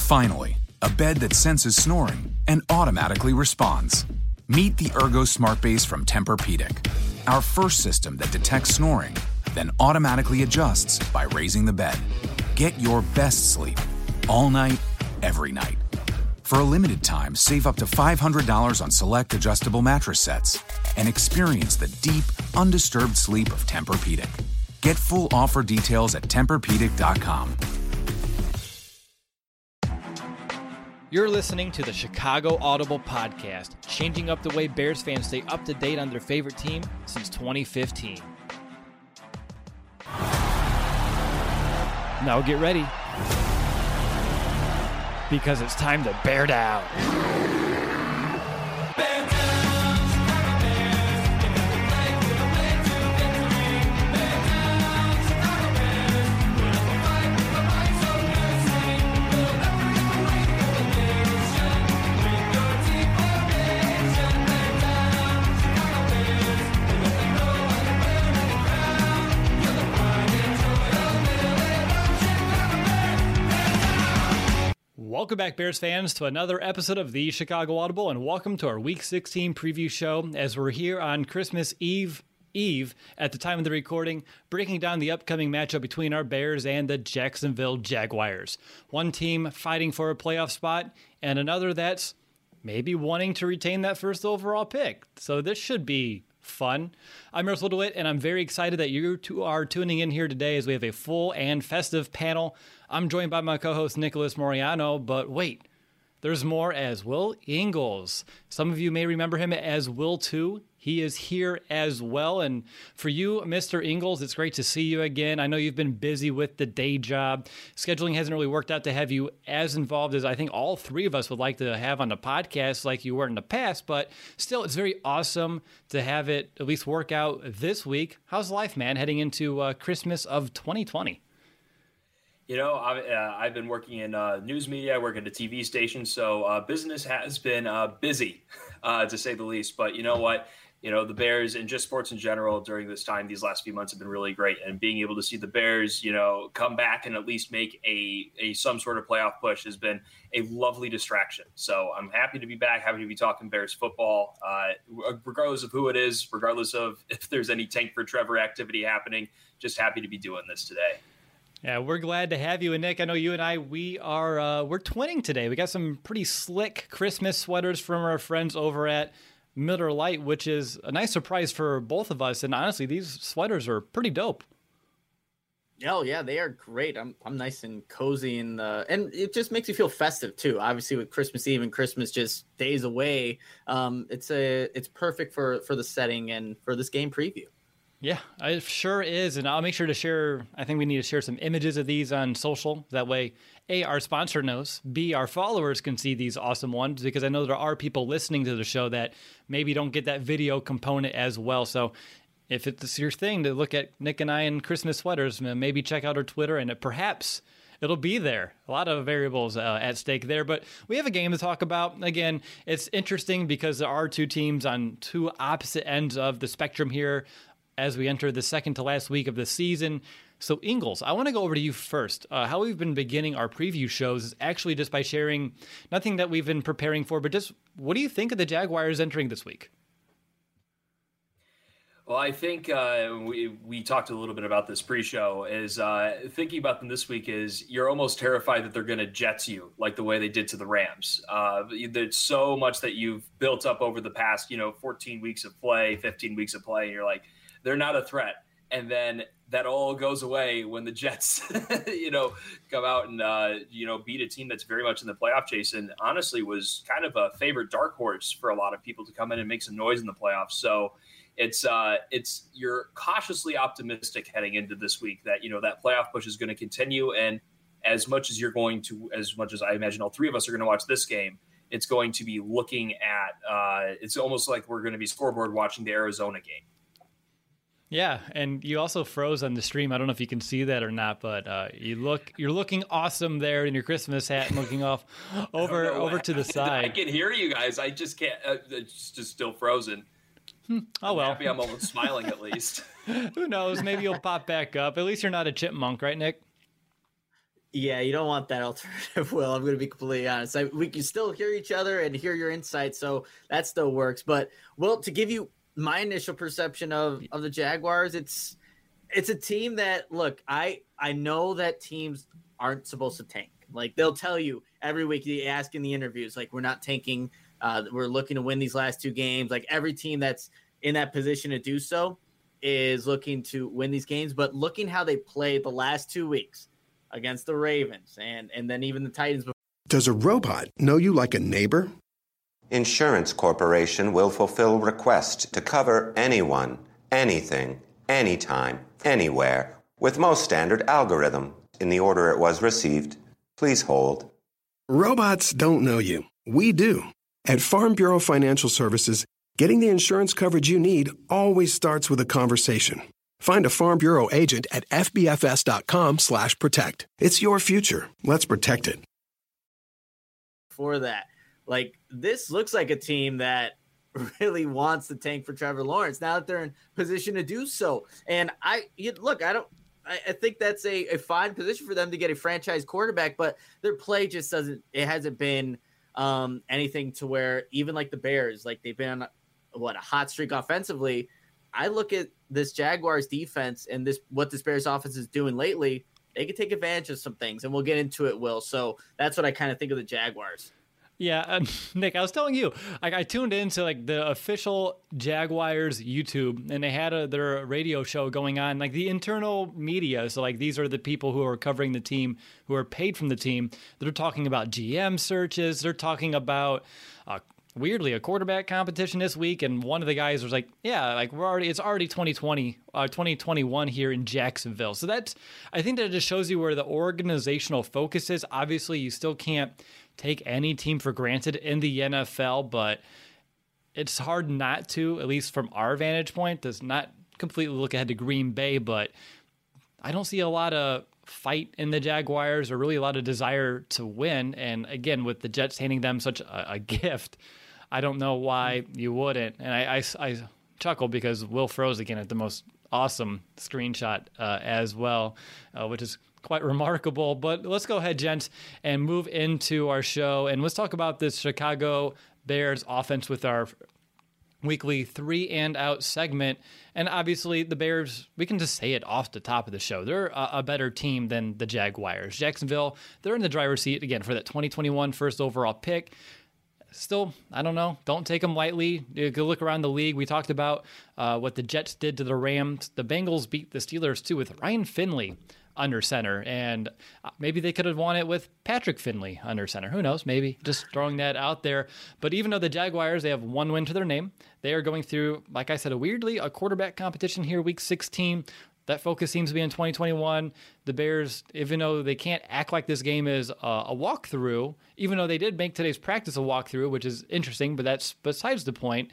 Finally, a bed that senses snoring and automatically responds. Meet the Ergo Smart Base from Tempur-Pedic, our first system that detects snoring, then automatically adjusts by raising the bed. Get your best sleep all night, every night. For a limited time, save up to $500 on select adjustable mattress sets and experience the deep, undisturbed sleep of Tempur-Pedic. Get full offer details at TempurPedic.com. You're listening to the Chicago Audible Podcast, changing up the way Bears fans stay up to date on their favorite team since 2015. Now get ready, because it's time to bear down. Welcome back, Bears fans, to another episode of the Chicago Audible, and welcome to our Week 16 preview show as we're here on Christmas Eve at the time of the recording, breaking down the upcoming matchup between our Bears and the Jacksonville Jaguars. One team fighting for a playoff spot, and another that's maybe wanting to retain that first overall pick. So this should be fun. I'm Russell DeWitt, and I'm very excited that you two are tuning in here today as we have a full and festive panel. I'm joined by my co-host Nicholas Moriano, but wait, there's more as Will Ingles. Some of you may remember him as Will 2. He is here as well, and for you, Mr. Ingles, it's great to see you again. I know you've been busy with the day job. Scheduling hasn't really worked out to have you as involved as I think all three of us would like to have on the podcast like you were in the past, but still, it's very awesome to have it at least work out this week. How's life, man, heading into Christmas of 2020? You know, I've been working in news media. I work at a TV station, so business has been busy, to say the least. But you know what? You know, the Bears and just sports in general during this time, these last few months have been really great. And being able to see the Bears, you know, come back and at least make a some sort of playoff push has been a lovely distraction. So I'm happy to be back, happy to be talking Bears football, regardless of who it is, regardless of if there's any tank for Trevor activity happening. Just happy to be doing this today. Yeah, we're glad to have you. And Nick, I know you and I, we're twinning today. We got some pretty slick Christmas sweaters from our friends over at Miller Lite, which is a nice surprise for both of us. And honestly, these sweaters are pretty dope. Oh yeah, they are great. I'm nice and cozy, and it just makes you feel festive too. Obviously, with Christmas Eve and Christmas just days away, it's perfect for the setting and for this game preview. Yeah, it sure is. And I'll make sure to share, I think we need to share some images of these on social. That way, A, our sponsor knows, B, our followers can see these awesome ones, because I know there are people listening to the show that maybe don't get that video component as well. So if it's your thing to look at Nick and I in Christmas sweaters, maybe check out our Twitter and perhaps it'll be there. A lot of variables at stake there, but we have a game to talk about. Again, it's interesting because there are two teams on two opposite ends of the spectrum here as we enter the second to last week of the season. So Ingles, I want to go over to you first. How we've been beginning our preview shows is actually just by sharing nothing that we've been preparing for, but just what do you think of the Jaguars entering this week? Well, I think we talked a little bit about this pre-show, is thinking about them this week is you're almost terrified that they're going to Jets you like the way they did to the Rams. There's so much that you've built up over the past, 14 weeks of play, 15 weeks of play, and you're like, they're not a threat. And then that all goes away when the Jets, come out and, beat a team that's very much in the playoff chase and honestly was kind of a favorite dark horse for a lot of people to come in and make some noise in the playoffs. So it's you're cautiously optimistic heading into this week that, that playoff push is going to continue. And as much as I imagine all three of us are going to watch this game, it's going to be looking at, it's almost like we're going to be scoreboard watching the Arizona game. Yeah, and you also froze on the stream. I don't know if you can see that or not, but you're looking awesome there in your Christmas hat and looking off over to the side. I can hear you guys. I just can't. It's just still frozen. Oh well. Happy I'm almost smiling at least. Who knows? Maybe you'll pop back up. At least you're not a chipmunk, right, Nick? Yeah, you don't want that alternative, Will. I'm going to be completely honest. We can still hear each other and hear your insights, so that still works. But, Will, to give you my initial perception of the Jaguars, it's a team that, look, I know that teams aren't supposed to tank. Like, they'll tell you every week, you ask in the interviews, like, we're not tanking. We're looking to win these last 2 games. Like, every team that's in that position to do so is looking to win these games. But looking how they played the last 2 weeks against the Ravens and then even the Titans. Does a robot know you like a neighbor? Insurance Corporation will fulfill requests to cover anyone, anything, anytime, anywhere, with most standard algorithm in the order it was received. Please hold. Robots don't know you. We do. At Farm Bureau Financial Services, getting the insurance coverage you need always starts with a conversation. Find a Farm Bureau agent at fbfs.com/protect. It's your future. Let's protect it. For that, like, this looks like a team that really wants to tank for Trevor Lawrence now that they're in position to do so. And I think that's a fine position for them to get a franchise quarterback, but their play just hasn't been anything to where, even like the Bears, like, they've been on a hot streak offensively. I look at this Jaguars defense and what this Bears offense is doing lately. They can take advantage of some things, and we'll get into it, Will. So that's what I kind of think of the Jaguars. Yeah, Nick, I was telling you, I tuned into like the official Jaguars YouTube, and they had their radio show going on, like the internal media. So like, these are the people who are covering the team, who are paid from the team. They're talking about GM searches. They're talking about weirdly a quarterback competition this week, and one of the guys was like, yeah, like it's already 2021 here in Jacksonville. So I think that it just shows you where the organizational focus is. Obviously, you still can't take any team for granted in the NFL, but it's hard not to, at least from our vantage point. Does not completely look ahead to Green Bay, but I don't see a lot of fight in the Jaguars or really a lot of desire to win. And again, with the Jets handing them such a gift, I don't know why you wouldn't. And I chuckle because Will froze again at the most awesome screenshot as well, which is quite remarkable. But let's go ahead, gents, and move into our show. And let's talk about this Chicago Bears offense with our weekly 3 and out segment. And obviously the Bears, we can just say it off the top of the show, they're a better team than the Jaguars. Jacksonville, they're in the driver's seat again for that 2021 first overall pick. Still, I don't know. Don't take them lightly. You can look around the league. We talked about what the Jets did to the Rams. The Bengals beat the Steelers too with Ryan Finley under center, and maybe they could have won it with Patrick Finley under center. Who knows? Maybe. Just throwing that out there. But even though the Jaguars, they have 1 win to their name, they are going through, like I said, a quarterback competition here, week 16. That focus seems to be in 2021. The Bears, even though they can't act like this game is a walkthrough, even though they did make today's practice a walkthrough, which is interesting, but that's besides the point.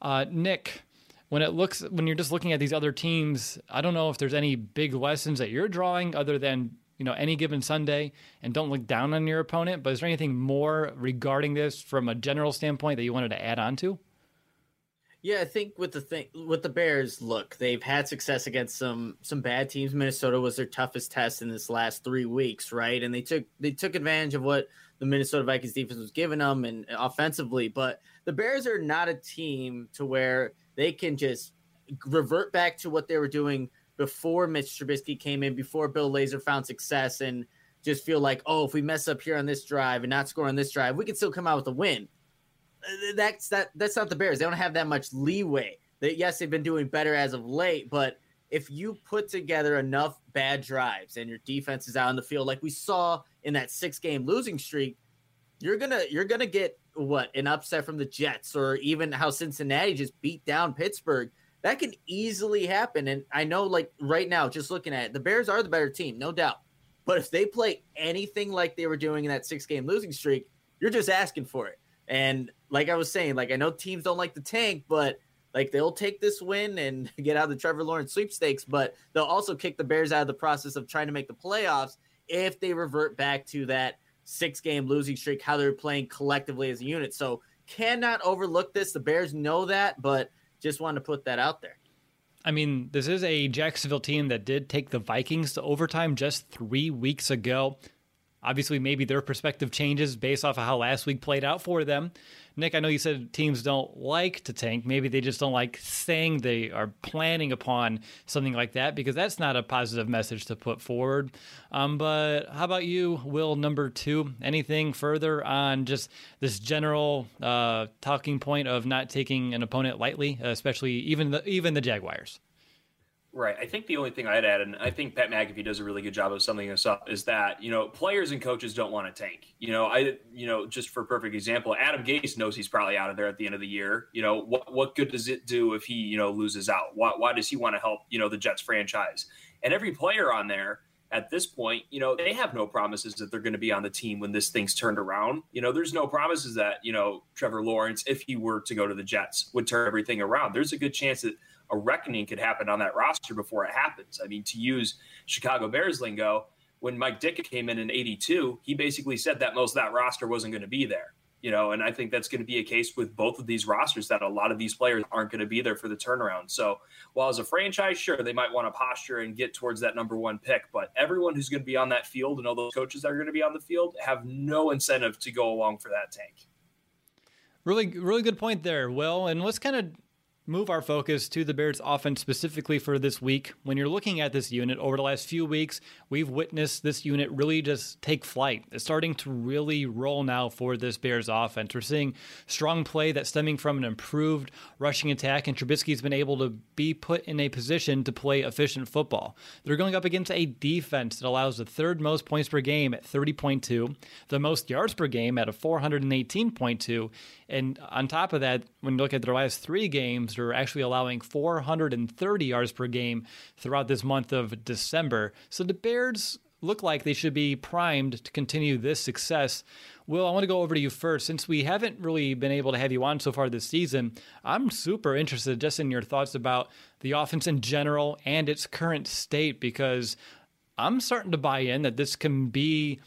Nick, when you're just looking at these other teams, I don't know if there's any big lessons that you're drawing other than, any given Sunday, and don't look down on your opponent. But is there anything more regarding this from a general standpoint that you wanted to add on to? Yeah, I think with the Bears, look, they've had success against some bad teams. Minnesota was their toughest test in this last 3 weeks, right? And they took advantage of what the Minnesota Vikings defense was giving them and offensively. But the Bears are not a team to where they can just revert back to what they were doing before Mitch Trubisky came in, before Bill Lazor found success, and just feel like, oh, if we mess up here on this drive and not score on this drive, we can still come out with a win. That's not the Bears. They don't have that much leeway. Yes, they've been doing better as of late, but if you put together enough bad drives and your defense is out on the field, like we saw in that 6-game losing streak, you're gonna get an upset from the Jets, or even how Cincinnati just beat down Pittsburgh. That can easily happen. And I know, like right now, just looking at it, the Bears are the better team, no doubt. But if they play anything like they were doing in that 6-game losing streak, you're just asking for it. And like I was saying, like I know teams don't like the tank, but like they'll take this win and get out of the Trevor Lawrence sweepstakes, but they'll also kick the Bears out of the process of trying to make the playoffs if they revert back to that 6-game losing streak, how they're playing collectively as a unit. So cannot overlook this. The Bears know that, but just wanted to put that out there. I mean, this is a Jacksonville team that did take the Vikings to overtime just 3 weeks ago. Obviously, maybe their perspective changes based off of how last week played out for them. Nick, I know you said teams don't like to tank. Maybe they just don't like saying they are planning upon something like that, because that's not a positive message to put forward. But how about you, Will, number 2? Anything further on just this general talking point of not taking an opponent lightly, especially even the Jaguars? Right. I think the only thing I'd add, and I think Pat McAfee does a really good job of summing this up, is that, players and coaches don't want to tank. Just for a perfect example, Adam Gase knows he's probably out of there at the end of the year. What good does it do if he, loses out? Why does he want to help, the Jets franchise? And every player on there at this point, they have no promises that they're going to be on the team when this thing's turned around. There's no promises that, Trevor Lawrence, if he were to go to the Jets, would turn everything around. There's a good chance that a reckoning could happen on that roster before it happens. I mean, to use Chicago Bears lingo, when Mike Ditka came in 82, he basically said that most of that roster wasn't going to be there. And I think that's going to be a case with both of these rosters, that a lot of these players aren't going to be there for the turnaround. So while as a franchise, sure, they might want to posture and get towards that number 1 pick, but everyone who's going to be on that field and all those coaches that are going to be on the field have no incentive to go along for that tank. Really, really good point there, Will. And let's kind of move our focus to the Bears offense specifically for this week. When you're looking at this unit over the last few weeks, we've witnessed this unit really just take flight. It's starting to really roll now for this Bears offense. We're seeing strong play that's stemming from an improved rushing attack, and Trubisky's been able to be put in a position to play efficient football. They're going up against a defense that allows the 3rd most points per game at 30.2, the most yards per game at a 418.2, and on top of that, when you look at their last 3 games, they're actually allowing 430 yards per game throughout this month of December. So the Bears look like they should be primed to continue this success. Will, I want to go over to you first. Since we haven't really been able to have you on so far this season, I'm super interested just in your thoughts about the offense in general and its current state, because I'm starting to buy in that this can be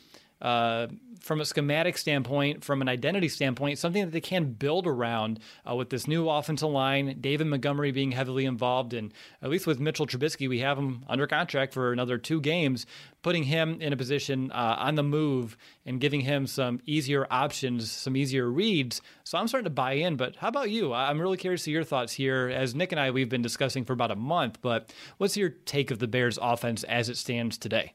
from a schematic standpoint, from an identity standpoint, something that they can build around with this new offensive line, David Montgomery being heavily involved, and at least with Mitchell Trubisky, we have him under contract for another 2 games, putting him in a position on the move and giving him some easier options, some easier reads. So I'm starting to buy in, but how about you? I'm really curious to your thoughts here. As Nick and I, we've been discussing for about a month, but what's your take of the Bears offense as it stands today?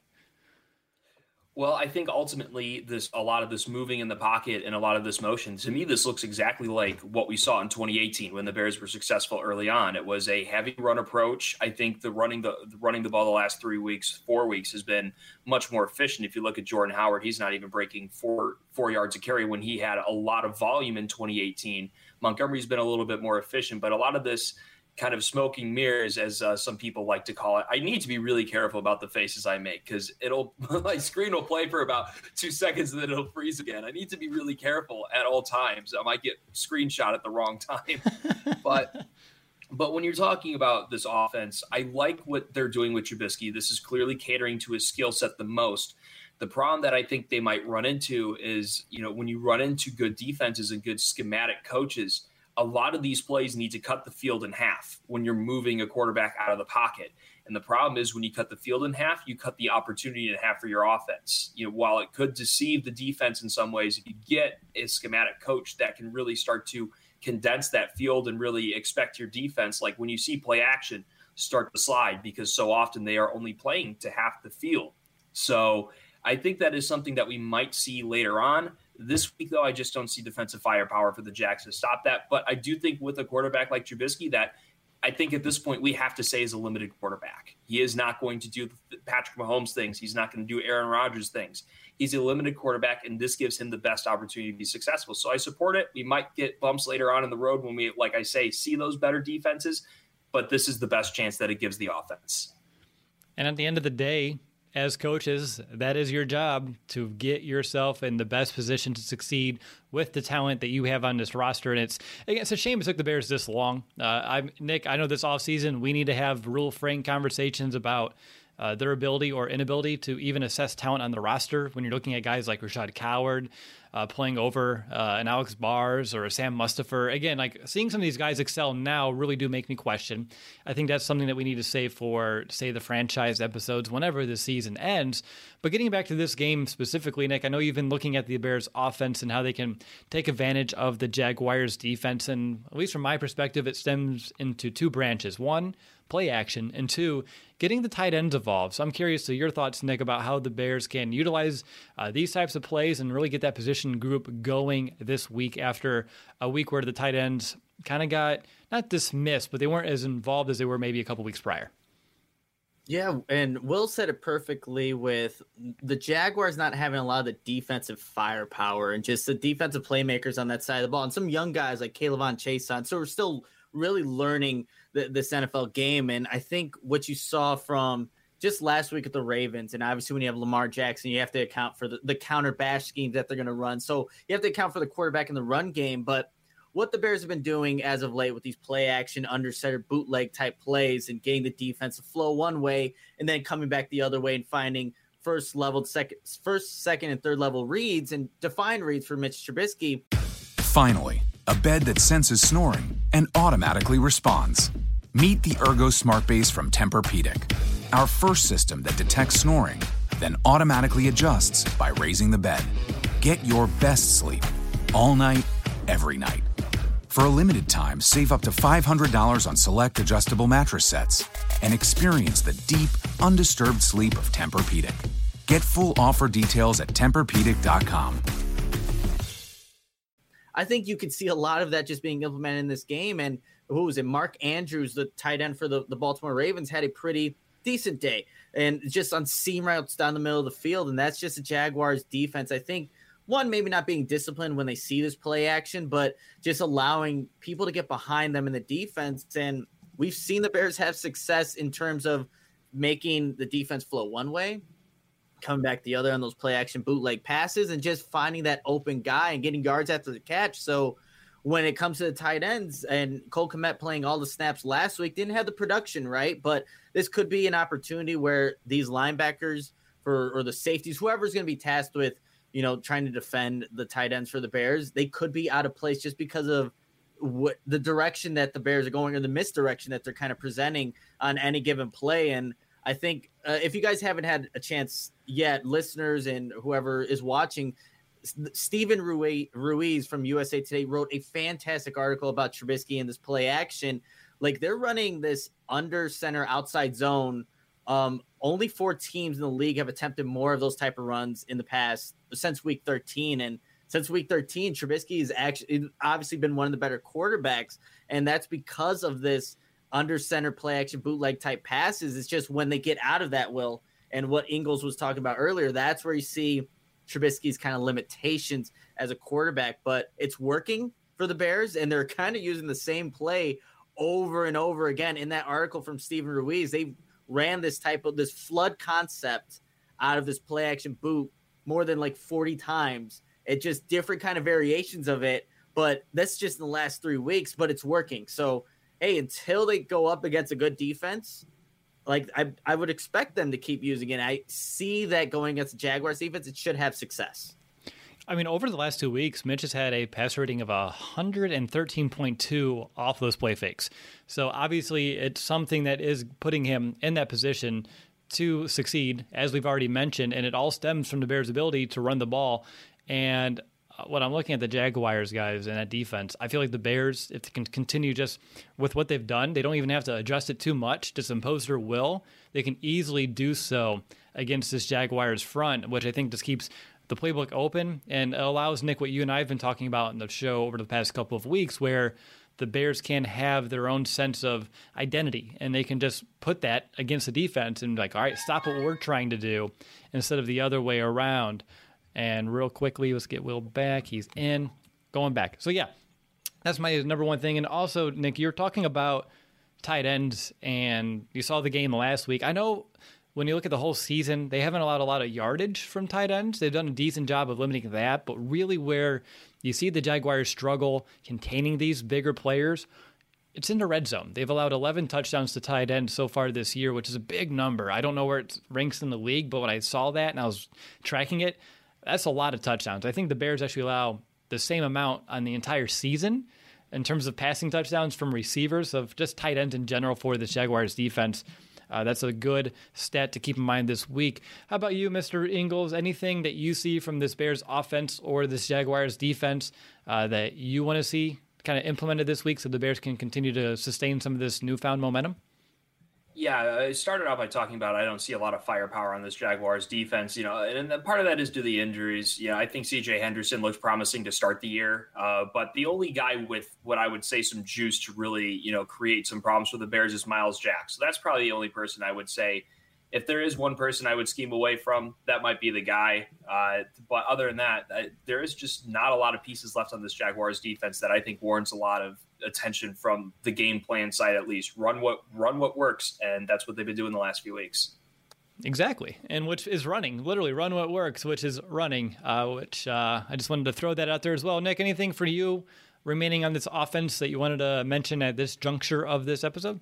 Well, I think ultimately a lot of this moving in the pocket and a lot of this motion, to me, this looks exactly like what we saw in 2018 when the Bears were successful early on. It was a heavy run approach. I think the running the ball the last 4 weeks has been much more efficient. If you look at Jordan Howard, he's not even breaking four yards a carry when he had a lot of volume in 2018. Montgomery's been a little bit more efficient, but a lot of this kind of smoking mirrors, as some people like to call it. I need to be really careful about the faces I make, because my screen will play for about 2 seconds and then it'll freeze again. I need to be really careful at all times. I might get screenshot at the wrong time. But when you're talking about this offense, I like what they're doing with Trubisky. This is clearly catering to his skill set the most. The problem that I think they might run into is, when you run into good defenses and good schematic coaches, a lot of these plays need to cut the field in half when you're moving a quarterback out of the pocket. And the problem is when you cut the field in half, you cut the opportunity in half for your offense. While it could deceive the defense in some ways, if you get a schematic coach that can really start to condense that field and really expect your defense, like when you see play action start to slide, because so often they are only playing to half the field. So I think that is something that we might see later on. This week, though, I just don't see defensive firepower for the Jacks to stop that. But I do think with a quarterback like Trubisky, that I think at this point we have to say is a limited quarterback. He is not going to do the Patrick Mahomes things. He's not going to do Aaron Rodgers things. He's a limited quarterback, and this gives him the best opportunity to be successful. So I support it. We might get bumps later on in the road when we, like I say, see those better defenses. But this is the best chance that it gives the offense. And at the end of the day, as coaches, that is your job, to get yourself in the best position to succeed with the talent that you have on this roster. And it's a shame it took the Bears this long. Nick, I know this offseason we need to have real frank conversations about their ability or inability to even assess talent on the roster when you're looking at guys like Rashad Coward, playing over an Alex Bars or a Sam Mustapher. Again, like seeing some of these guys excel now really do make me question. I think that's something that we need to save for, say, the franchise episodes whenever the season ends. But getting back to this game specifically, Nick, I know you've been looking at the Bears offense and how they can take advantage of the Jaguars defense. And at least from my perspective, it stems into two branches. One, play action, and two, getting the tight ends involved. So I'm curious to your thoughts, Nick, about how the Bears can utilize these types of plays and really get that position group going this week after a week where the tight ends kind of got not dismissed, but they weren't as involved as they were maybe a couple weeks prior. Yeah, and Will said it perfectly with the Jaguars not having a lot of the defensive firepower and just the defensive playmakers on that side of the ball, and some young guys like K'Lavon Chaisson. So we're still really learning this NFL game. And I think what you saw from just last week at the Ravens, and obviously when you have Lamar Jackson, you have to account for the counter bash schemes that they're going to run. So you have to account for the quarterback in the run game. But what the Bears have been doing as of late with these play action, under center, bootleg type plays and getting the defensive flow one way and then coming back the other way and finding first, second, and third level reads and defined reads for Mitch Trubisky. Finally, a bed that senses snoring and automatically responds. Meet the Ergo Smart Base from Tempur-Pedic, our first system that detects snoring, then automatically adjusts by raising the bed. Get your best sleep all night, every night. For a limited time, save up to $500 on select adjustable mattress sets and experience the deep, undisturbed sleep of Tempur-Pedic. Get full offer details at TempurPedic.com. I think you could see a lot of that just being implemented in this game. And who was it? Mark Andrews, the tight end for the Baltimore Ravens, had a pretty decent day and just on seam routes down the middle of the field. And that's just a Jaguars defense. I think one, maybe not being disciplined when they see this play action, but just allowing people to get behind them in the defense. And we've seen the Bears have success in terms of making the defense flow one way, coming back the other on those play action bootleg passes, and just finding that open guy and getting yards after the catch. So when it comes to the tight ends, and Cole Kmet playing all the snaps last week, didn't have the production, right? But this could be an opportunity where these linebackers or the safeties, whoever's going to be tasked with, trying to defend the tight ends for the Bears, they could be out of place just because of what the direction that the Bears are going, or the misdirection that they're kind of presenting on any given play. And I think if you guys haven't had a chance yet, listeners and whoever is watching, Stephen Ruiz from USA Today wrote a fantastic article about Trubisky and this play action. Like, they're running this under center outside zone. Only 4 teams in the league have attempted more of those type of runs in the past since week 13. And since week 13, Trubisky has actually obviously been one of the better quarterbacks. And that's because of this under center play action bootleg type passes. It's just when they get out of that, Will, and what Ingles was talking about earlier, that's where you see Trubisky's kind of limitations as a quarterback. But it's working for the Bears, and they're kind of using the same play over and over again. In that article from Stephen Ruiz, they ran this flood concept out of this play action boot more than like 40 times. It's just different kind of variations of it, but that's just in the last 3 weeks, but it's working. So, hey, until they go up against a good defense, like I would expect them to keep using it. I see that going against the Jaguars defense, it should have success. I mean, over the last 2 weeks, Mitch has had a passer rating of 113.2 off those play fakes. So obviously it's something that is putting him in that position to succeed, as we've already mentioned, and it all stems from the Bears' ability to run the ball. And when I'm looking at the Jaguars, guys, and that defense, I feel like the Bears, if they can continue just with what they've done, they don't even have to adjust it too much, just impose their will. They can easily do so against this Jaguars front, which I think just keeps the playbook open and allows, Nick, what you and I have been talking about in the show over the past couple of weeks, where the Bears can have their own sense of identity, and they can just put that against the defense and be like, all right, stop what we're trying to do, instead of the other way around. And real quickly, let's get Will back. He's in, going back. So, yeah, that's my number one thing. And also, Nick, you're talking about tight ends, and you saw the game last week. I know when you look at the whole season, they haven't allowed a lot of yardage from tight ends. They've done a decent job of limiting that. But really where you see the Jaguars struggle containing these bigger players, it's in the red zone. They've allowed 11 touchdowns to tight ends so far this year, which is a big number. I don't know where it ranks in the league, but when I saw that and I was tracking it, That's a lot of touchdowns. I think the Bears actually allow the same amount on the entire season in terms of passing touchdowns from receivers, of just tight ends in general for the Jaguars defense. That's a good stat to keep in mind this week. How about you, Mr. Ingles? Anything that you see from this Bears offense or this Jaguars defense that you want to see kind of implemented this week so the Bears can continue to sustain some of this newfound momentum? Yeah, I started off by talking about I don't see a lot of firepower on this Jaguars defense, and part of that is due to the injuries. Yeah, I think C.J. Henderson looks promising to start the year, but the only guy with what I would say some juice to really, create some problems for the Bears is Myles Jack. So that's probably the only person I would say, if there is one person I would scheme away from, that might be the guy. But other than that, there is just not a lot of pieces left on this Jaguars defense that I think warrants a lot of attention from the game plan side. At least run what works, and that's what they've been doing the last few weeks. Exactly, and which is running, literally run what works, which is running, which I just wanted to throw that out there as well. Nick, anything for you remaining on this offense that you wanted to mention at this juncture of this episode?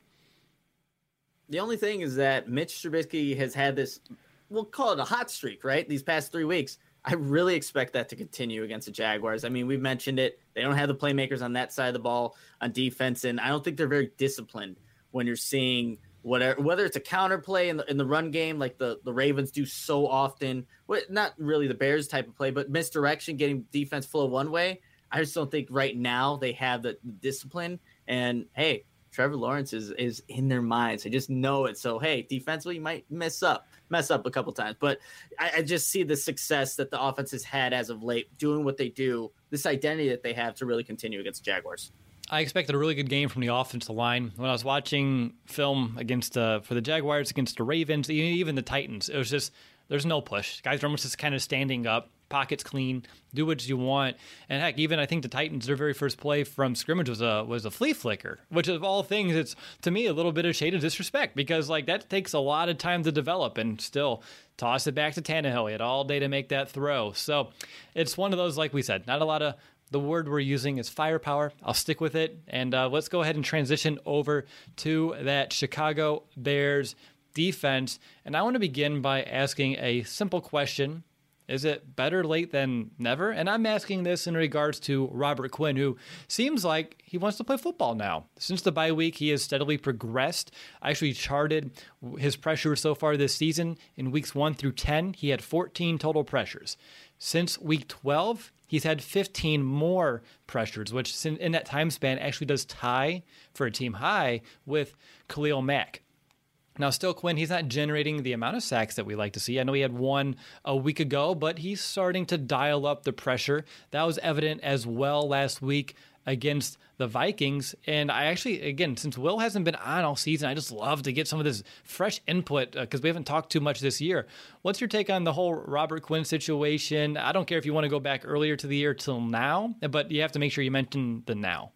The only thing is that Mitch Trubisky has had this, we'll call it a hot streak, right? These past 3 weeks. I really expect that to continue against the Jaguars. I mean, we've mentioned it. They don't have the playmakers on that side of the ball on defense, and I don't think they're very disciplined when you're seeing whether it's a counterplay in the run game like the Ravens do so often. Not really the Bears type of play, but misdirection, getting defense flow one way. I just don't think right now they have the discipline. And, hey, Trevor Lawrence is in their minds. I just know it. So, hey, defensively, you might mess up a couple times. But I just see the success that the offense has had as of late, doing what they do, this identity that they have to really continue against the Jaguars. I expected a really good game from the offensive line. When I was watching film against for the Jaguars, against the Ravens, even the Titans, it was just, there's no push. Guys are almost just kind of standing up, pockets clean, do what you want. And heck, even I think the Titans, their very first play from scrimmage was a flea flicker, which of all things, it's to me a little bit of shade of disrespect, because like that takes a lot of time to develop, and still toss it back to Tannehill. He had all day to make that throw. So it's one of those, like we said, not a lot of, the word we're using is firepower. I'll stick with it. And let's go ahead and transition over to that Chicago Bears defense. And I want to begin by asking a simple question. Is it better late than never? And I'm asking this in regards to Robert Quinn, who seems like he wants to play football now. Since the bye week, he has steadily progressed. I actually charted his pressures so far this season. In weeks 1 through 10, he had 14 total pressures. Since week 12, he's had 15 more pressures, which in that time span actually does tie for a team high with Khalil Mack. Now, still, Quinn, he's not generating the amount of sacks that we like to see. I know he had one a week ago, but he's starting to dial up the pressure. That was evident as well last week against the Vikings. And I actually, again, since Will hasn't been on all season, I just love to get some of this fresh input because we haven't talked too much this year. What's your take on the whole Robert Quinn situation? I don't care if you want to go back earlier to the year till now, but you have to make sure you mention the now.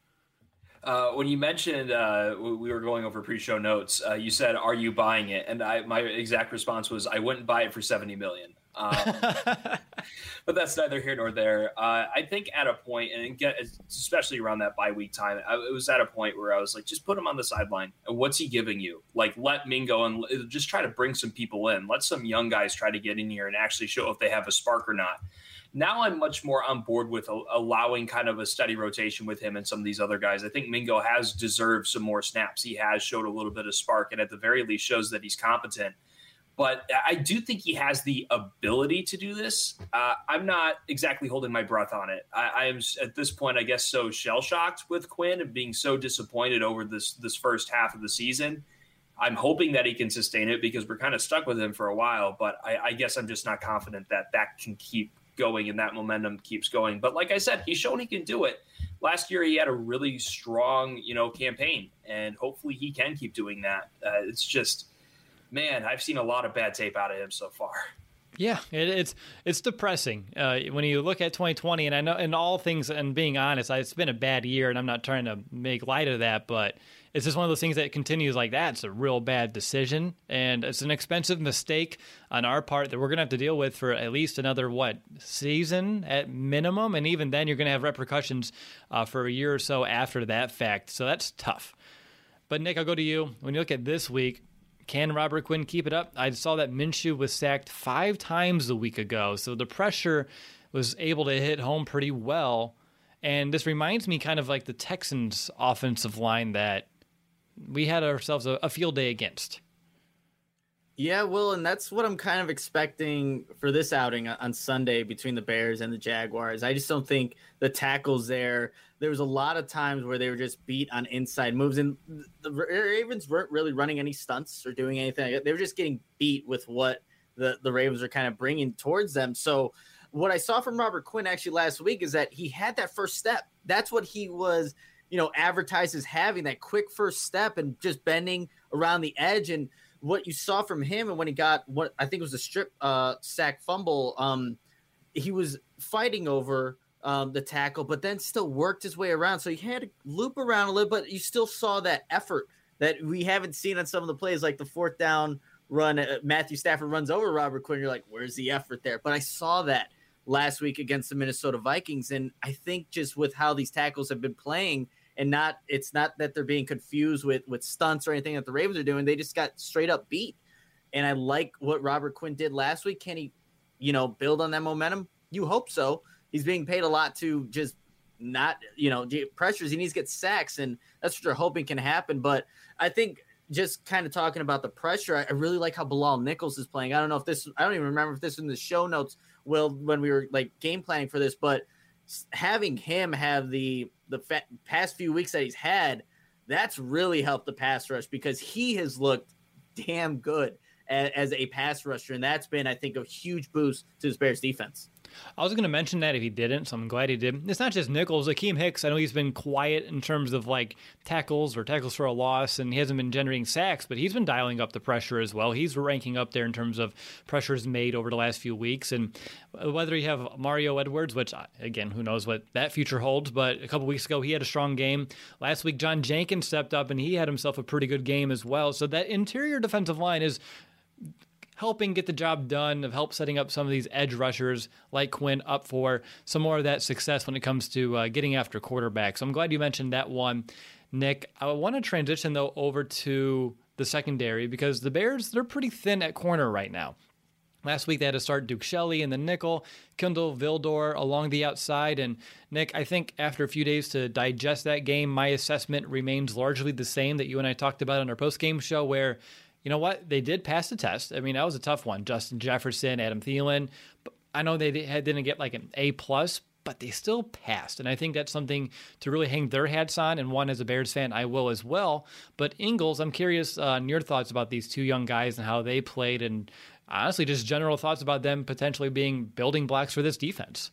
When you mentioned we were going over pre-show notes, you said, "Are you buying it?" And my exact response was, "I wouldn't buy it for $70 million." But that's neither here nor there. I think at a point, and especially around that bye week time, it was at a point where I was like, just put him on the sideline. What's he giving you? Like, let Mingo and just try to bring some people in. Let some young guys try to get in here and actually show if they have a spark or not. Now I'm much more on board with allowing kind of a steady rotation with him and some of these other guys. I think Mingo has deserved some more snaps. He has showed a little bit of spark, and at the very least shows that he's competent. But I do think he has the ability to do this. I'm not exactly holding my breath on it. I am at this point, I guess, so shell-shocked with Quinn and being so disappointed over this first half of the season. I'm hoping that he can sustain it because we're kind of stuck with him for a while. But I guess I'm just not confident that can keep going and that momentum keeps going. But like I said, he's shown he can do it. Last year, he had a really strong, campaign, and hopefully he can keep doing that. It's just, man, I've seen a lot of bad tape out of him so far. Yeah, it's depressing when you look at 2020, and I know in all things, and being honest, it's been a bad year, and I'm not trying to make light of that, but it's just one of those things that continues like that. It's a real bad decision, and it's an expensive mistake on our part that we're going to have to deal with for at least another, season at minimum, and even then you're going to have repercussions for a year or so after that fact, so that's tough. But Nick, I'll go to you. When you look at this week, Can Robert Quinn keep it up? I saw that Minshew was sacked 5 times a week ago, so the pressure was able to hit home pretty well. And this reminds me kind of like the Texans' offensive line that we had ourselves a field day against. Yeah, Will, and that's what I'm kind of expecting for this outing on Sunday between the Bears and the Jaguars. I just don't think the tackles there was a lot of times where they were just beat on inside moves, and the Ravens weren't really running any stunts or doing anything. They were just getting beat with what the Ravens are kind of bringing towards them. So what I saw from Robert Quinn actually last week is that he had that first step. That's what he was, advertised as having, that quick first step and just bending around the edge. And what you saw from him, and when he got what I think was a strip sack fumble, he was fighting over the tackle, but then still worked his way around. So he had to loop around a little, but you still saw that effort that we haven't seen on some of the plays, like the 4th down run. Matthew Stafford runs over Robert Quinn. You're like, where's the effort there? But I saw that last week against the Minnesota Vikings, and I think just with how these tackles have been playing, and it's not that they're being confused with stunts or anything that the Ravens are doing. They just got straight up beat. And I like what Robert Quinn did last week. Can he, build on that momentum? You hope so. He's being paid a lot to just not, pressures. He needs to get sacks, and that's what you're hoping can happen. But I think just kind of talking about the pressure, I really like how Bilal Nichols is playing. I don't even remember if this was in the show notes, Will, when we were like game planning for this, but having him have the past few weeks that he's had, that's really helped the pass rush, because he has looked damn good as a pass rusher, and that's been, I think, a huge boost to the Bears defense. I was going to mention that if he didn't, so I'm glad he did. It's not just Nichols. Akeem Hicks, I know he's been quiet in terms of like tackles or tackles for a loss, and he hasn't been generating sacks, but he's been dialing up the pressure as well. He's ranking up there in terms of pressures made over the last few weeks. And whether you have Mario Edwards, which, again, who knows what that future holds, but a couple weeks ago he had a strong game. Last week, John Jenkins stepped up, and he had himself a pretty good game as well. So that interior defensive line is helping get the job done, of help setting up some of these edge rushers like Quinn up for some more of that success when it comes to getting after quarterbacks. So I'm glad you mentioned that one, Nick. I want to transition, though, over to the secondary, because the Bears, they're pretty thin at corner right now. Last week, they had to start Duke Shelley in the nickel, Kindle Vildor along the outside. And, Nick, I think after a few days to digest that game, my assessment remains largely the same that you and I talked about on our post-game show, where, you know what, they did pass the test. I mean, that was a tough one. Justin Jefferson, Adam Thielen. I know they didn't get like an A+, but they still passed. And I think that's something to really hang their hats on. And one, as a Bears fan, I will as well. But Ingles, I'm curious on your thoughts about these two young guys and how they played, and honestly, just general thoughts about them potentially being building blocks for this defense.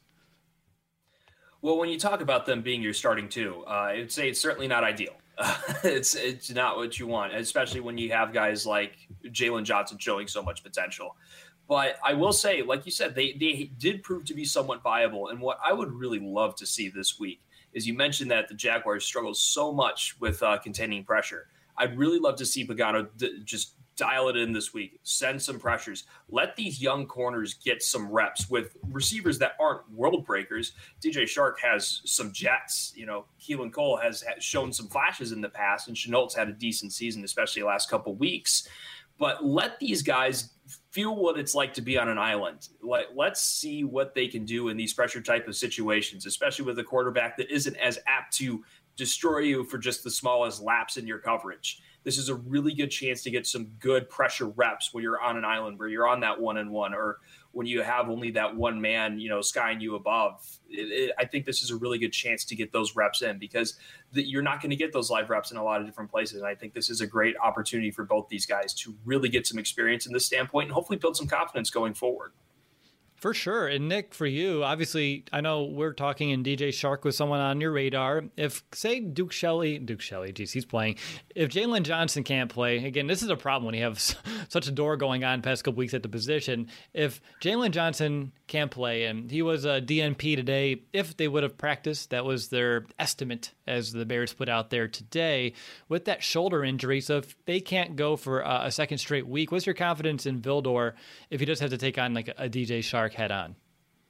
Well, when you talk about them being your starting two, I'd say it's certainly not ideal. It's not what you want, especially when you have guys like Jalen Johnson showing so much potential. But I will say, like you said, they did prove to be somewhat viable. And what I would really love to see this week is, you mentioned that the Jaguars struggle so much with containing pressure. I'd really love to see Pagano just dial it in this week, send some pressures, let these young corners get some reps with receivers that aren't world breakers. DJ Shark has some jets, Keelan Cole has shown some flashes in the past, and Chenault's had a decent season, especially the last couple weeks. But let these guys feel what it's like to be on an island. Let's see what they can do in these pressure type of situations, especially with a quarterback that isn't as apt to destroy you for just the smallest lapse in your coverage. This is a really good chance to get some good pressure reps when you're on an island, where you're on that 1-on-1, or when you have only that one man, skying you above. I think this is a really good chance to get those reps in, because you're not going to get those live reps in a lot of different places. And I think this is a great opportunity for both these guys to really get some experience in this standpoint and hopefully build some confidence going forward. For sure. And Nick, for you, obviously, I know we're talking, and DJ Shark was someone on your radar. If, say, Duke Shelley, geez, he's playing. If Jalen Johnson can't play, again, this is a problem when you have such a door going on past couple weeks at the position. If Jalen Johnson can't play, and he was a DNP today, if they would have practiced, that was their estimate as the Bears put out there today, with that shoulder injury. So if they can't go for a second straight week, what's your confidence in Vildor if he does have to take on like a DJ Shark head on?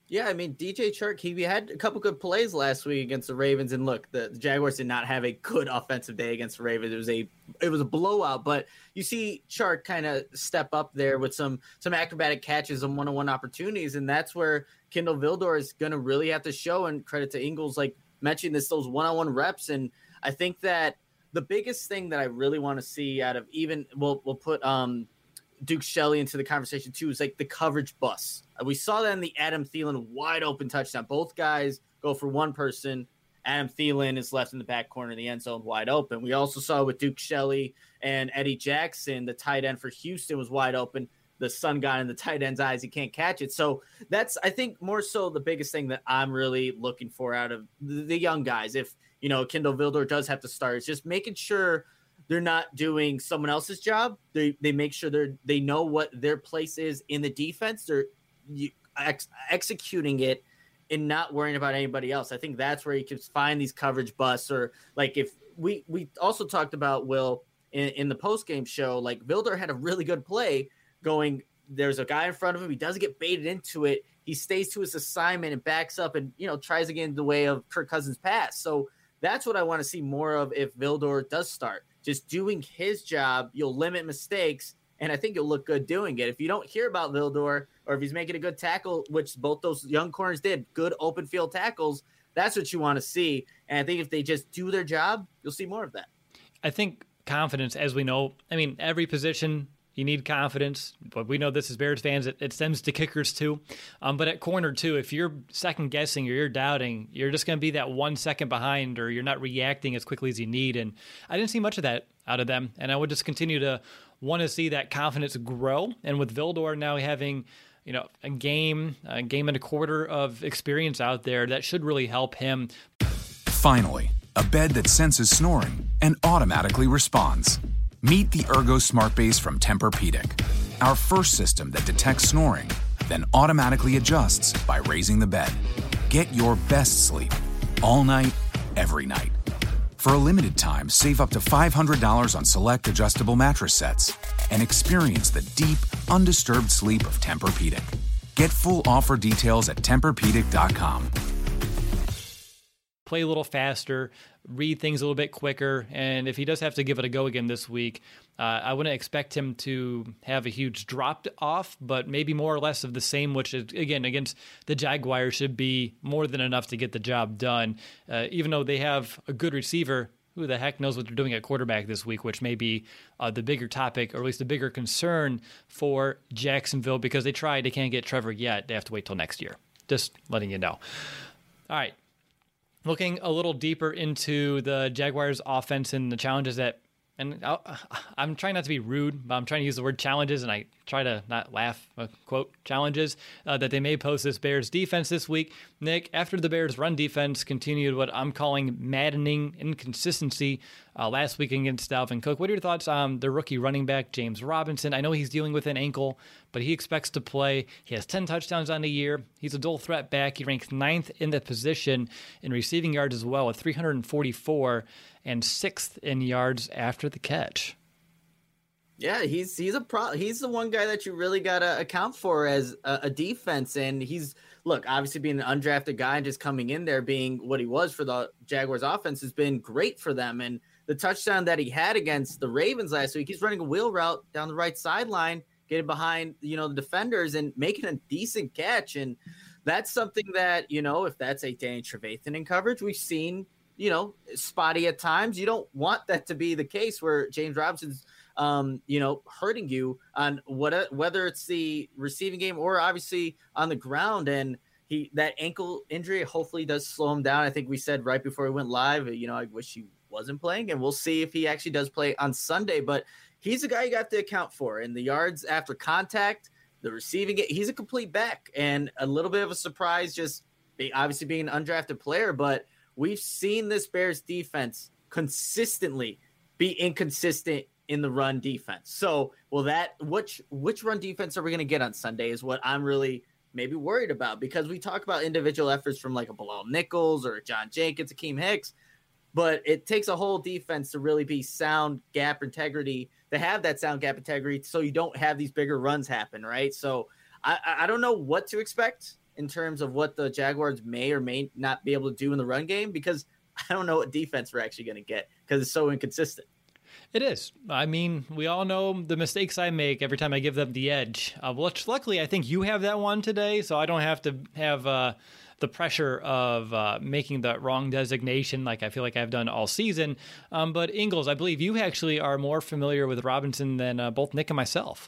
Yeah, I mean, DJ Chark, he had a couple good plays last week against the Ravens, and look, the Jaguars did not have a good offensive day against the Ravens. It was a blowout, but you see Chark kind of step up there with some acrobatic catches and one-on-one opportunities, and that's where Kindle Vildor is going to really have to show. And credit to Ingles, like mentioning those one-on-one reps, and I think that the biggest thing that I really want to see out of we'll put Duke Shelley into the conversation too is like the coverage bus. We saw that in the Adam Thielen wide open touchdown. Both guys go for one person. Adam Thielen is left in the back corner of the end zone wide open. We also saw with Duke Shelley and Eddie Jackson, the tight end for Houston was wide open. The sun got in the tight end's eyes. He can't catch it. So that's, I think, more so the biggest thing that I'm really looking for out of the young guys. If, Kindle Vildor does have to start, it's just making sure they're not doing someone else's job. They make sure they know what their place is in the defense. They're executing it and not worrying about anybody else. I think that's where you can find these coverage busts, or like if we also talked about Will in the post-game show, like Vildor had a really good play going. There's a guy in front of him. He doesn't get baited into it. He stays to his assignment and backs up and, tries to get in the way of Kirk Cousins' pass. So that's what I want to see more of if Vildor does start. Just doing his job, you'll limit mistakes, and I think you'll look good doing it. If you don't hear about Vildor, or if he's making a good tackle, which both those young corners did, good open field tackles, that's what you want to see. And I think if they just do their job, you'll see more of that. I think confidence, as we know, every position you need confidence, but we know this as Bears fans, it stems to kickers too. But at corner too, if you're second guessing or you're doubting, you're just going to be that 1 second behind, or you're not reacting as quickly as you need. And I didn't see much of that out of them. And I would just continue to want to see that confidence grow. And with Vildor now having, a game and a quarter of experience out there, that should really help him. Finally, a bed that senses snoring and automatically responds. Meet the Ergo Smart Base from Tempur-Pedic, our first system that detects snoring, then automatically adjusts by raising the bed. Get your best sleep all night, every night. For a limited time, save up to $500 on select adjustable mattress sets and experience the deep, undisturbed sleep of Tempur-Pedic. Get full offer details at TempurPedic.com. Play a little faster, read things a little bit quicker, and if he does have to give it a go again this week, I wouldn't expect him to have a huge drop off, but maybe more or less of the same, which is, again, against the Jaguars should be more than enough to get the job done. Even though they have a good receiver, who the heck knows what they're doing at quarterback this week, which may be the bigger topic, or at least the bigger concern for Jacksonville, because they can't get Trevor yet. They have to wait till next year. Just letting you know. All right. Looking a little deeper into the Jaguars offense and the challenges I'm trying not to be rude, but I'm trying to use the word challenges, and I try to not laugh, quote, challenges that they may pose this Bears defense this week. Nick, after the Bears run defense continued what I'm calling maddening inconsistency last week against Dalvin Cook, what are your thoughts on the rookie running back, James Robinson? I know he's dealing with an ankle, but he expects to play. He has 10 touchdowns on the year. He's a dual threat back. He ranks 9th in the position in receiving yards as well, with 344, and 6th in yards after the catch. Yeah, he's the one guy that you really got to account for as a defense. And obviously being an undrafted guy and just coming in there being what he was for the Jaguars offense has been great for them. And the touchdown that he had against the Ravens last week, he's running a wheel route down the right sideline, getting behind, the defenders and making a decent catch. And that's something that, if that's a Danny Trevathan in coverage, we've seen, spotty at times. You don't want that to be the case where James Robinson's, hurting you on whether it's the receiving game or obviously on the ground. And that ankle injury hopefully does slow him down. I think we said right before we went live, I wish he wasn't playing, and we'll see if he actually does play on Sunday. But he's a guy you got to account for. And the yards after contact, the receiving it, he's a complete back, and a little bit of a surprise just obviously being an undrafted player. But we've seen this Bears defense consistently be inconsistent in the run defense. So, which run defense are we going to get on Sunday is what I'm really maybe worried about, because we talk about individual efforts from like a Bilal Nichols or a John Jenkins, Akeem Hicks, but it takes a whole defense to really be sound gap integrity, to have that sound gap integrity so you don't have these bigger runs happen, right? So I don't know what to expect in terms of what the Jaguars may or may not be able to do in the run game, because I don't know what defense we're actually going to get because it's so inconsistent. It is. I mean, we all know the mistakes I make every time I give them the edge. Which luckily, I think you have that one today, so I don't have to have the pressure of making the wrong designation like I feel like I've done all season. But Ingles, I believe you actually are more familiar with Robinson than both Nick and myself.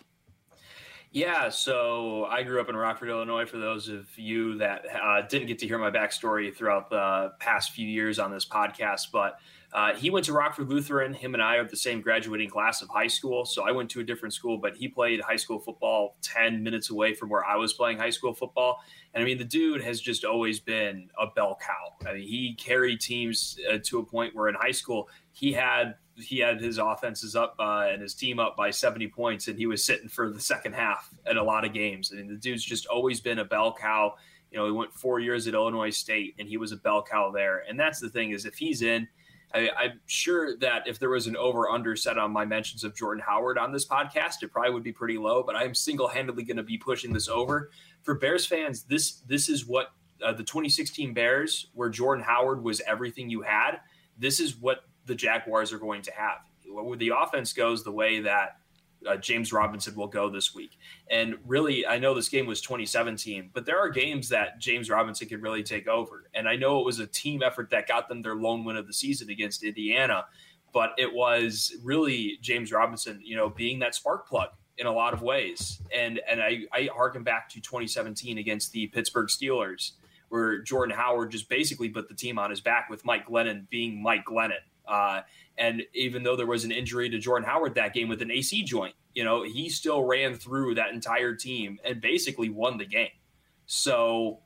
Yeah, so I grew up in Rockford, Illinois, for those of you that didn't get to hear my backstory throughout the past few years on this podcast. But he went to Rockford Lutheran. Him and I are the same graduating class of high school. So I went to a different school, but he played high school football 10 minutes away from where I was playing high school football. And I mean, the dude has just always been a bell cow. I mean, he carried teams to a point where in high school he had his offenses up and his team up by 70 points, and he was sitting for the second half in a lot of games. I mean, the dude's just always been a bell cow. You know, he went 4 years at Illinois State, and he was a bell cow there. And that's the thing, is if he's in, I'm sure that if there was an over-under set on my mentions of Jordan Howard on this podcast, it probably would be pretty low, but I'm single-handedly going to be pushing this over. For Bears fans, this is what the 2016 Bears, where Jordan Howard was everything you had, this is what the Jaguars are going to have. Where the offense goes the way that James Robinson will go this week. And really, I know this game was 2017, but there are games that James Robinson can really take over. And I know it was a team effort that got them their lone win of the season against Indiana, but it was really James Robinson, you know, being that spark plug in a lot of ways. And I harken back to 2017 against the Pittsburgh Steelers, where Jordan Howard just basically put the team on his back with Mike Glennon being Mike Glennon. And even though there was an injury to Jordan Howard that game with an AC joint, you know, he still ran through that entire team and basically won the game. So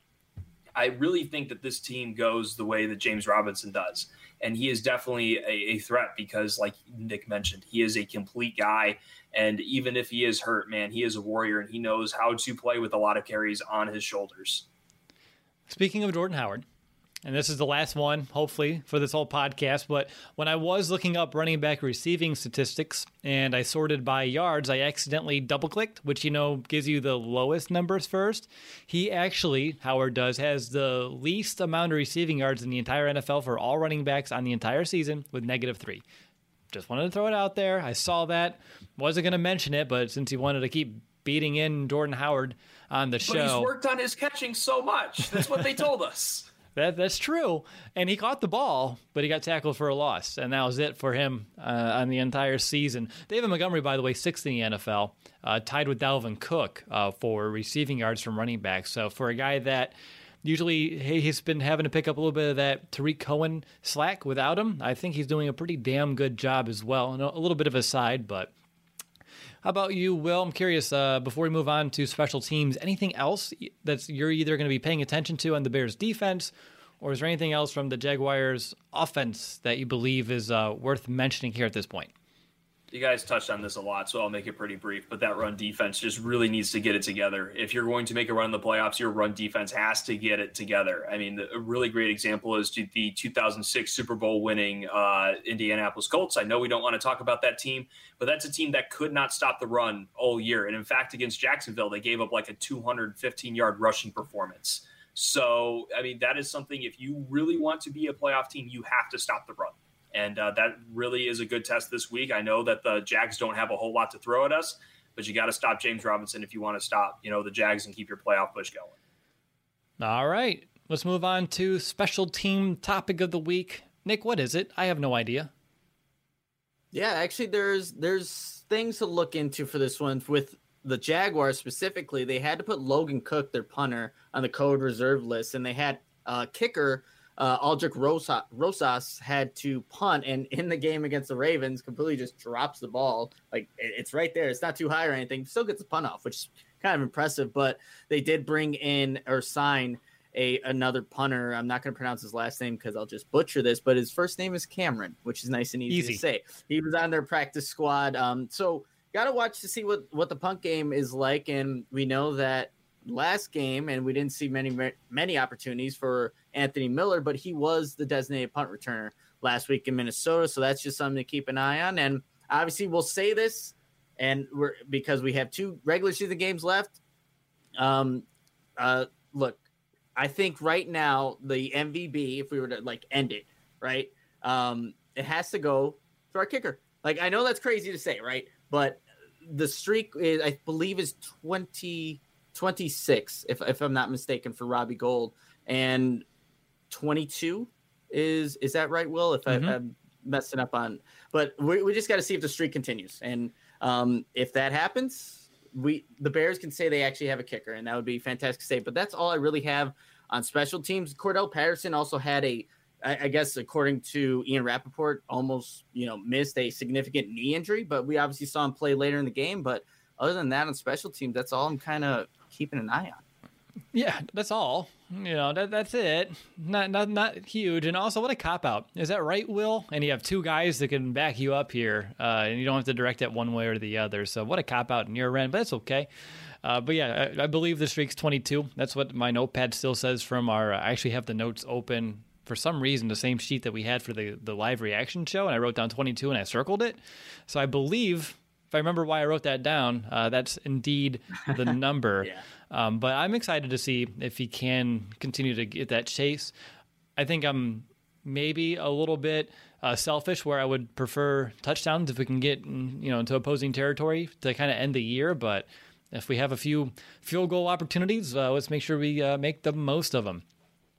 I really think that this team goes the way that James Robinson does. And he is definitely a threat because, like Nick mentioned, he is a complete guy. And even if he is hurt, man, he is a warrior, and he knows how to play with a lot of carries on his shoulders. Speaking of Jordan Howard, and this is the last one, hopefully, for this whole podcast, but when I was looking up running back receiving statistics and I sorted by yards, I accidentally double-clicked, which, you know, gives you the lowest numbers first. He actually, Howard does, has the least amount of receiving yards in the entire NFL for all running backs on the entire season with -3. Just wanted to throw it out there. I saw that. Wasn't going to mention it, but since you wanted to keep beating in Jordan Howard on the show. But he's worked on his catching so much. That's what they told us. That's true. And he caught the ball, but he got tackled for a loss. And that was it for him on the entire season. David Montgomery, by the way, 6th in the NFL, tied with Dalvin Cook for receiving yards from running backs. So for a guy that usually he's been having to pick up a little bit of that Tariq Cohen slack without him, I think he's doing a pretty damn good job as well. And a little bit of a side, but how about you, Will? I'm curious, before we move on to special teams, anything else that you're either going to be paying attention to on the Bears defense, or is there anything else from the Jaguars offense that you believe is worth mentioning here at this point? You guys touched on this a lot, so I'll make it pretty brief, but that run defense just really needs to get it together. If you're going to make a run in the playoffs, your run defense has to get it together. I mean, a really great example is the 2006 Super Bowl winning Indianapolis Colts. I know we don't want to talk about that team, but that's a team that could not stop the run all year. And in fact, against Jacksonville, they gave up like a 215-yard rushing performance. So, I mean, that is something, if you really want to be a playoff team, you have to stop the run. And that really is a good test this week. I know that the Jags don't have a whole lot to throw at us, but you got to stop James Robinson if you want to stop, you know, the Jags and keep your playoff push going. All right, let's move on to special team topic of the week. Nick, what is it? I have no idea. Yeah, actually, there's things to look into for this one. With the Jaguars specifically, they had to put Logan Cook, their punter, on the COVID reserve list, and they had kicker Aldrich Rosas had to punt, and in the game against the Ravens, completely just drops the ball. Like, it's right there. It's not too high or anything. Still gets the punt off, which is kind of impressive. But they did bring in or sign another punter. I'm not going to pronounce his last name because I'll just butcher this, but his first name is Cameron, which is nice and easy to say. He was on their practice squad. So got to watch to see what the punt game is like. And we know that last game, and we didn't see many opportunities for Anthony Miller, but he was the designated punt returner last week in Minnesota. So that's just something to keep an eye on. And obviously we'll say this, and because we have 2 regular season games left. Look, I think right now the MVP, if we were to like end it, right, it has to go to our kicker. Like, I know that's crazy to say, right? But the streak is, I believe, is 26, if I'm not mistaken, for Robbie Gould, and 22 is that right, Will? If I'm messing up on, but we just got to see if the streak continues, and if that happens, the Bears can say they actually have a kicker, and that would be fantastic to say. But that's all I really have on special teams. Cordell Patterson also had I guess according to Ian Rappaport, almost missed a significant knee injury, but we obviously saw him play later in the game. But other than that, on special teams, that's all I'm kind of keeping an eye on. Yeah, that's all. That's it. Not huge. And also, what a cop out. Is that right, Will? And you have two guys that can back you up here, and you don't have to direct it one way or the other. So what a cop out in your end, but that's okay. But yeah, I believe the streak's 22. That's what my notepad still says from our. I actually have the notes open for some reason, the same sheet that we had for the live reaction show, and I wrote down 22 and I circled it. So I believe, if I remember why I wrote that down, that's indeed the number. Yeah. But I'm excited to see if he can continue to get that chase. I think I'm maybe a little bit selfish, where I would prefer touchdowns if we can get into opposing territory to kind of end the year. But if we have a few field goal opportunities, let's make sure we make the most of them.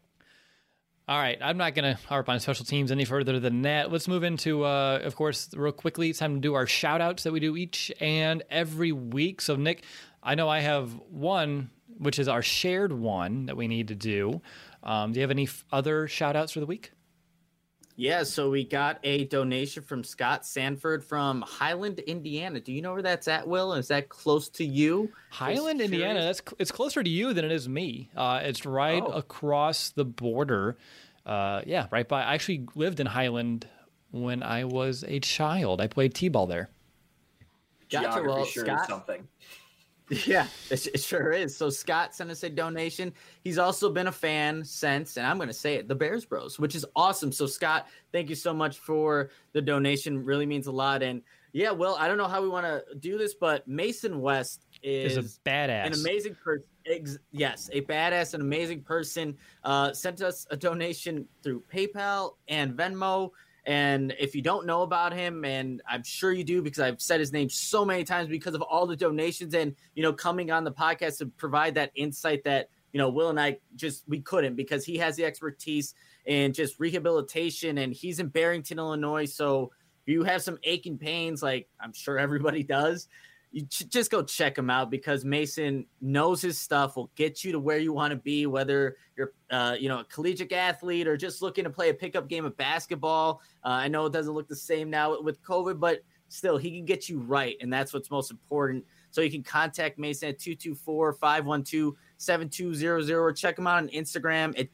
All right, I'm not going to harp on special teams any further than that. Let's move into, of course, real quickly, it's time to do our shout-outs that we do each and every week. So, Nick, I know I have one, which is our shared one that we need to do. Do you have any other shout-outs for the week? Yeah, so we got a donation from Scott Sanford from Highland, Indiana. Do you know where that's at, Will? Is that close to you? Highland, Indiana. It's closer to you than it is me. It's right across the border. Right by. I actually lived in Highland when I was a child. I played t-ball there. Gotcha. Well, sure Scott, is something. Yeah, it sure is. So Scott sent us a donation. He's also been a fan since, and I'm going to say it, the Bears Bros, which is awesome. So Scott, thank you so much for the donation. Really means a lot. And yeah, Will, I don't know how we want to do this, but Mason West is a badass, an amazing person. Yes, a badass, an amazing person. Sent us a donation through PayPal and Venmo. And if you don't know about him, and I'm sure you do because I've said his name so many times because of all the donations and, coming on the podcast to provide that insight that, Will and I we couldn't, because he has the expertise in just rehabilitation, and he's in Barrington, Illinois. So if you have some aching pains, like I'm sure everybody does, you just go check him out, because Mason knows his stuff, will get you to where you want to be, whether you're, a collegiate athlete or just looking to play a pickup game of basketball. I know it doesn't look the same now with COVID, but still, he can get you right, and that's what's most important. So you can contact Mason at 224-512-7200, or check him out on Instagram at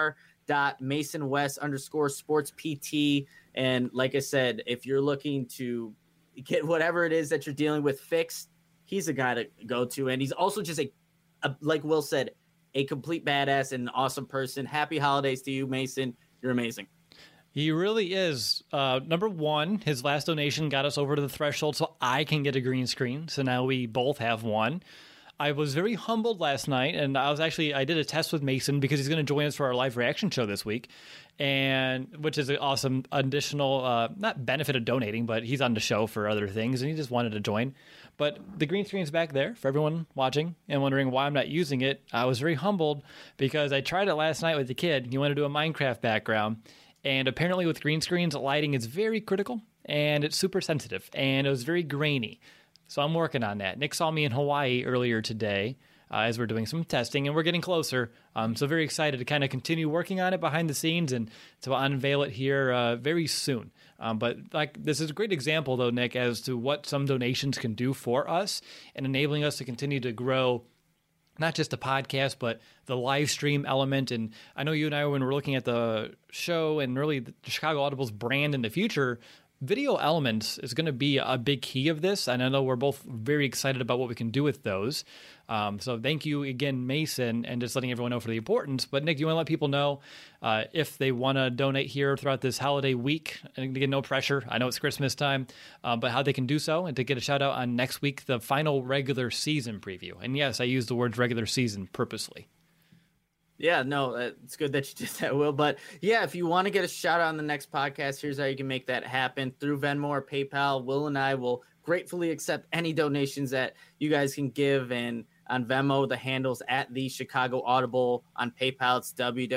dr.masonwest_sportspt. And like I said, if you're looking to get whatever it is that you're dealing with fixed, he's a guy to go to. And he's also just like Will said, a complete badass and an awesome person. Happy holidays to you, Mason. You're amazing. He really is. Number one, his last donation got us over to the threshold so I can get a green screen. So now we both have one. I was very humbled last night, and I did a test with Mason because he's going to join us for our live reaction show this week, and which is an awesome additional, not benefit of donating, but he's on the show for other things, and he just wanted to join. But the green screen's back there for everyone watching and wondering why I'm not using it. I was very humbled because I tried it last night with the kid. He wanted to do a Minecraft background, and apparently with green screens, lighting is very critical, and it's super sensitive, and it was very grainy. So I'm working on that. Nick saw me in Hawaii earlier today as we're doing some testing, and we're getting closer. So very excited to kind of continue working on it behind the scenes and to unveil it here very soon. But this is a great example, though, Nick, as to what some donations can do for us and enabling us to continue to grow not just the podcast, but the live stream element. And I know you and I, when we're looking at the show and really the Chicago Audible's brand in the future, video elements is going to be a big key of this, and I know we're both very excited about what we can do with those. So thank you again, Mason, and just letting everyone know for the importance. But Nick, you want to let people know if they want to donate here throughout this holiday week, and again, no pressure. I know it's Christmas time, but how they can do so and to get a shout out on next week, the final regular season preview. And yes, I use the words regular season purposely. Yeah, no, it's good that you did that, Will. But yeah, if you want to get a shout out on the next podcast, here's how you can make that happen through Venmo or PayPal. Will and I will gratefully accept any donations that you guys can give. And on Venmo, the handle's at the Chicago Audible. On PayPal, it's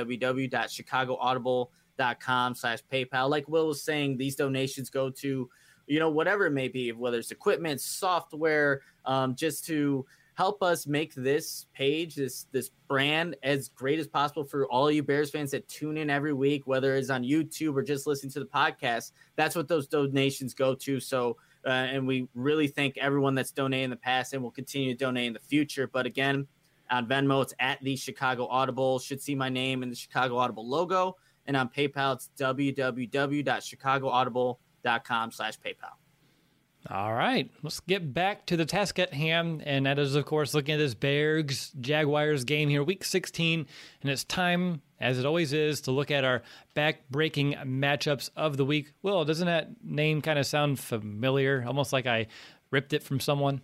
www.chicagoaudible.com/PayPal. Like Will was saying, these donations go to, whatever it may be, whether it's equipment, software, just to help us make this page, this brand, as great as possible for all you Bears fans that tune in every week, whether it's on YouTube or just listening to the podcast. That's what those donations go to. So, and we really thank everyone that's donated in the past and will continue to donate in the future. But again, on Venmo, it's at the Chicago Audible. Should see my name in the Chicago Audible logo. And on PayPal, it's www.chicagoaudible.com/PayPal. All right, let's get back to the task at hand, and that is, of course, looking at this Bears-Jaguars game here, Week 16, and it's time, as it always is, to look at our back-breaking matchups of the week. Will, doesn't that name kind of sound familiar, almost like I ripped it from someone?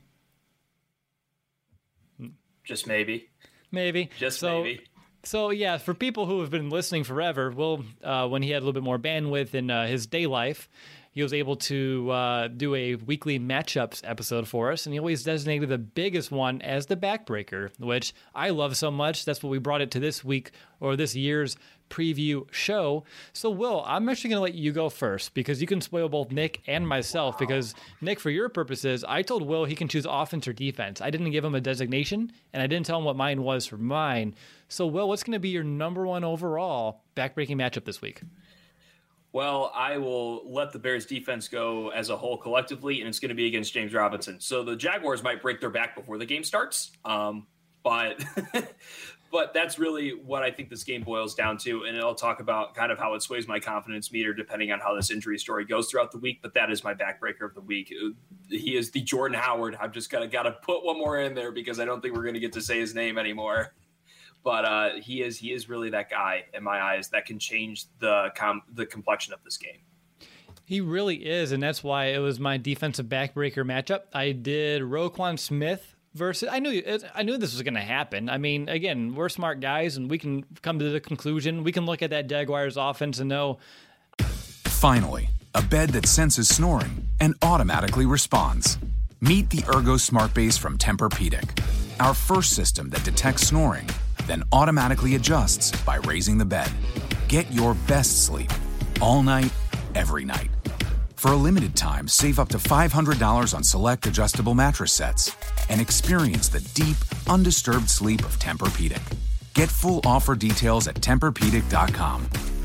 Just maybe. Maybe. Maybe. So, yeah, for people who have been listening forever, Will, when he had a little bit more bandwidth in his day life, he was able to do a weekly matchups episode for us, and he always designated the biggest one as the backbreaker, which I love so much. That's what we brought it to this week, or this year's preview show. So, Will, I'm actually going to let you go first, because you can spoil both Nick and myself, because, Nick, for your purposes, I told Will he can choose offense or defense. I didn't give him a designation, and I didn't tell him what mine was for mine. So, Will, what's going to be your number one overall backbreaking matchup this week? Well, I will let the Bears defense go as a whole collectively, and it's going to be against James Robinson. So the Jaguars might break their back before the game starts, but that's really what I think this game boils down to, and I'll talk about kind of how it sways my confidence meter depending on how this injury story goes throughout the week, but that is my backbreaker of the week. He is the Jordan Howard. I've just got to put one more in there because I don't think we're going to get to say his name anymore. But he is really that guy in my eyes that can change the complexion of this game. He really is, and that's why it was my defensive backbreaker matchup. I did Roquan Smith versus. I knew this was going to happen. I mean, again, we're smart guys, and we can come to the conclusion. We can look at that Jaguars offense and know. Finally, a bed that senses snoring and automatically responds. Meet the Ergo Smart Base from Tempur-Pedic, our first system that detects snoring, then automatically adjusts by raising the bed. Get your best sleep all night, every night. For a limited time, save up to $500 on select adjustable mattress sets and experience the deep, undisturbed sleep of Tempur-Pedic. Get full offer details at TempurPedic.com.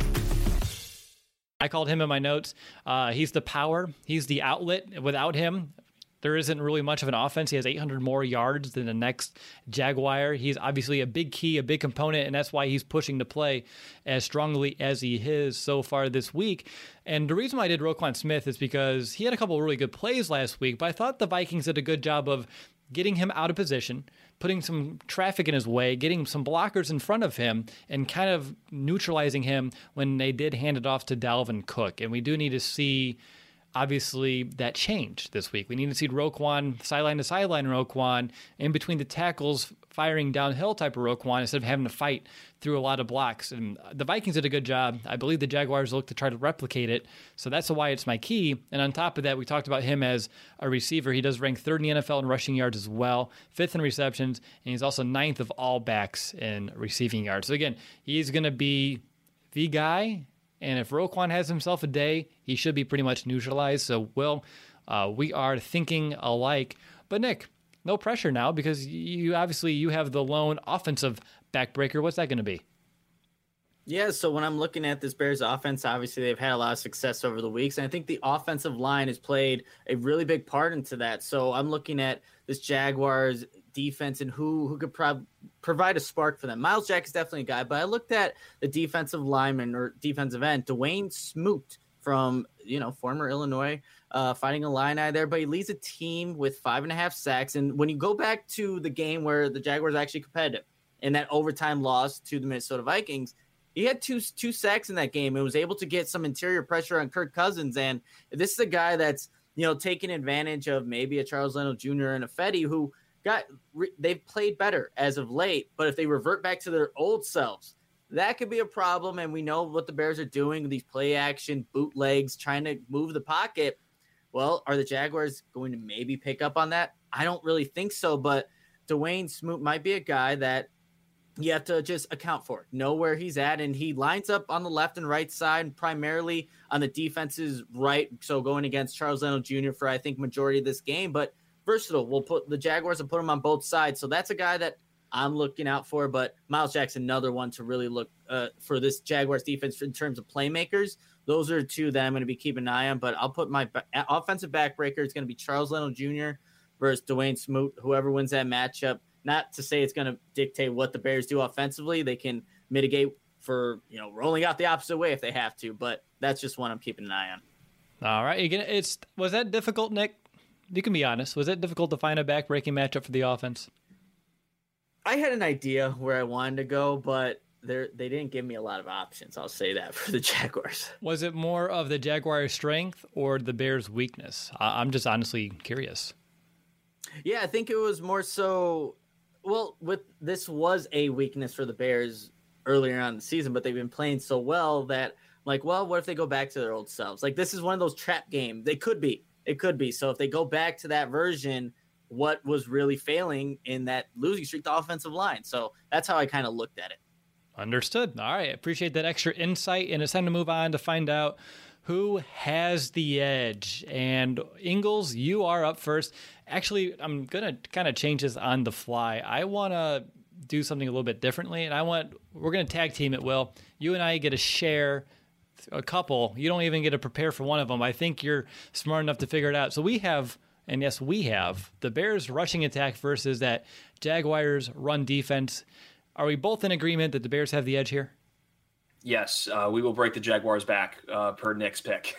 I called him in my notes. He's the power. He's the outlet. Without him, there isn't really much of an offense. He has 800 more yards than the next Jaguar. He's obviously a big key, a big component, and that's why he's pushing to play as strongly as he is so far this week. And the reason why I did Roquan Smith is because he had a couple of really good plays last week, but I thought the Vikings did a good job of getting him out of position, putting some traffic in his way, getting some blockers in front of him, and kind of neutralizing him when they did hand it off to Dalvin Cook. And we do need to see, obviously, that change this week. We need to see Roquan, sideline to sideline Roquan, in between the tackles, firing downhill type of Roquan instead of having to fight through a lot of blocks. And the Vikings did a good job. I believe the Jaguars look to try to replicate it. So that's why it's my key. And on top of that, we talked about him as a receiver. He does rank third in the NFL in rushing yards as well, fifth in receptions, and he's also ninth of all backs in receiving yards. So again, he's going to be the guy. And if Roquan has himself a day, he should be pretty much neutralized. So, Will, we are thinking alike. But, Nick, no pressure now because you have the lone offensive backbreaker. What's that going to be? Yeah, so when I'm looking at this Bears offense, obviously they've had a lot of success over the weeks. And I think the offensive line has played a really big part into that. So I'm looking at this Jaguars defense and who could provide a spark for them. Miles Jack is definitely a guy, but I looked at the defensive lineman or defensive end, Dwayne Smoot from, former Illinois Fighting Illini there, but he leads a team with 5.5 sacks. And when you go back to the game where the Jaguars actually competitive in that overtime loss to the Minnesota Vikings, he had two sacks in that game and was able to get some interior pressure on Kirk Cousins. And this is a guy that's, taking advantage of maybe a Charles Leno Jr. and a Fetty who they've played better as of late, but if they revert back to their old selves, that could be a problem. And we know what the Bears are doing, these play action bootlegs, trying to move the pocket. Well, are the Jaguars going to maybe pick up on that? I don't really think so, but Dwayne Smoot might be a guy that you have to just account for, know where he's at, and he lines up on the left and right side, primarily on the defense's right, so going against Charles Leno Jr. for, I think, majority of this game, but versatile. The Jaguars will put him on both sides, so that's a guy that I'm looking out for, but Miles Jackson, another one to really look for this Jaguars defense in terms of playmakers. Those are two that I'm going to be keeping an eye on, but I'll put my offensive backbreaker. It's going to be Charles Leno Jr. versus Dwayne Smoot, whoever wins that matchup. Not to say it's going to dictate what the Bears do offensively. They can mitigate for, rolling out the opposite way if they have to, but that's just one I'm keeping an eye on. All right. Was that difficult, Nick? You can be honest. Was it difficult to find a back-breaking matchup for the offense? I had an idea where I wanted to go, but they didn't give me a lot of options. I'll say that for the Jaguars. Was it more of the Jaguars' strength or the Bears' weakness? I'm just honestly curious. Yeah, I think it was more so. Well, this was a weakness for the Bears earlier on in the season, but they've been playing so well that, what if they go back to their old selves? This is one of those trap games. It could be. So if they go back to that version, what was really failing in that losing streak, the offensive line. So that's how I kind of looked at it. Understood. All right. Appreciate that extra insight. And it's time to move on to find out who has the edge. And Ingles, you are up first. Actually, I'm going to kind of change this on the fly. I want to do something a little bit differently. And we're going to tag team it, Will. You and I get to share a couple. You don't even get to prepare for one of them. I think you're smart enough to figure it out. So we have the Bears rushing attack versus that Jaguars run defense. Are we both in agreement that the Bears have the edge here? Yes, we will break the Jaguars back per Nick's pick.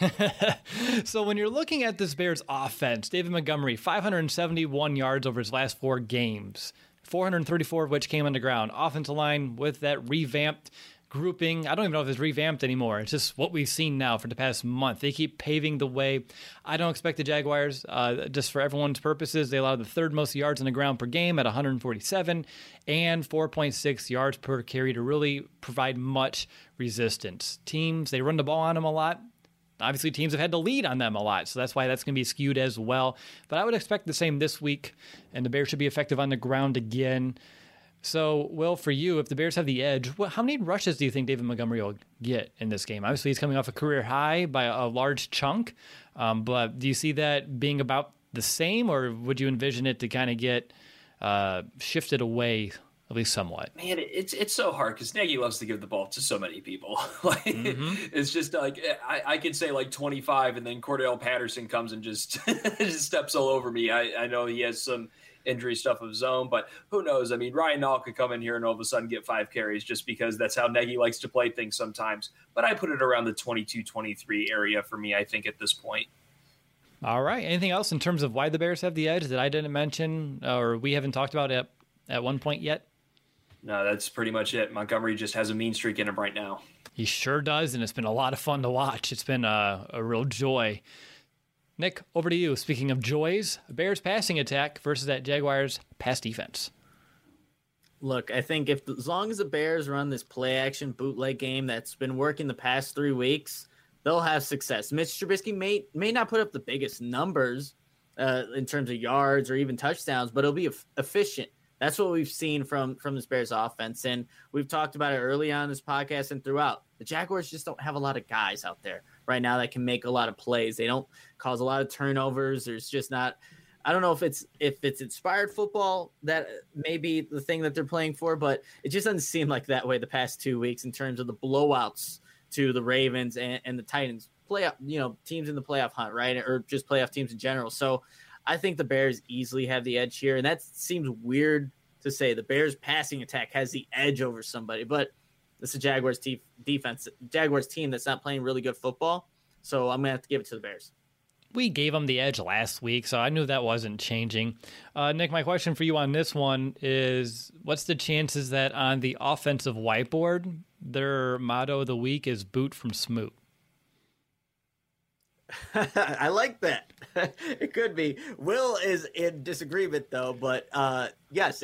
So when you're looking at this Bears offense, David Montgomery, 571 yards over his last 4 games, 434 of which came on the ground. Offensive line with that revamped grouping. I don't even know if it's revamped anymore. It's just what we've seen now for the past month. They keep paving the way. I don't expect the Jaguars, just for everyone's purposes, they allow the 3rd most yards on the ground per game at 147 and 4.6 yards per carry to really provide much resistance. Teams, they run the ball on them a lot. Obviously, teams have had to lead on them a lot, so that's why that's going to be skewed as well. But I would expect the same this week, and the Bears should be effective on the ground again. So, Will, for you, if the Bears have the edge, how many rushes do you think David Montgomery will get in this game? Obviously, he's coming off a career high by a large chunk, but do you see that being about the same, or would you envision it to kind of get shifted away at least somewhat? Man, it's so hard because Nagy loves to give the ball to so many people. It's just I could say 25, and then Cordell Patterson comes and just just steps all over me. I know he has some injury stuff of his own, but who knows? I mean, Ryan Nall could come in here and all of a sudden get 5 carries just because that's how Nagy likes to play things sometimes. But I put it around the 22-23 area for me, I think, at this point. All right. Anything else in terms of why the Bears have the edge that I didn't mention or we haven't talked about at one point yet? No, that's pretty much it. Montgomery just has a mean streak in him right now. He sure does, and it's been a lot of fun to watch. It's been a real joy. Nick, over to you. Speaking of joys, Bears passing attack versus that Jaguars pass defense. Look, I think as long as the Bears run this play-action bootleg game that's been working the past 3 weeks, they'll have success. Mitch Trubisky may not put up the biggest numbers in terms of yards or even touchdowns, but it'll be efficient. That's what we've seen from this Bears offense, and we've talked about it early on in this podcast and throughout. The Jaguars just don't have a lot of guys out there right now that can make a lot of plays. They don't cause a lot of turnovers. There's just not – I don't know if it's inspired football that may be the thing that they're playing for, but it just doesn't seem like that way the past 2 weeks in terms of the blowouts to the Ravens and the Titans. Playoff, teams in the playoff hunt, right, or just playoff teams in general. So I think the Bears easily have the edge here, and that seems weird to say. The Bears passing attack has the edge over somebody, but it's a Jaguars Jaguars team that's not playing really good football, so I'm going to have to give it to the Bears. We gave them the edge last week, so I knew that wasn't changing. Nick, my question for you on this one is, what's the chances that on the offensive whiteboard, their motto of the week is boot from Smoot? I like that. It could be. Will is in disagreement though, but yes,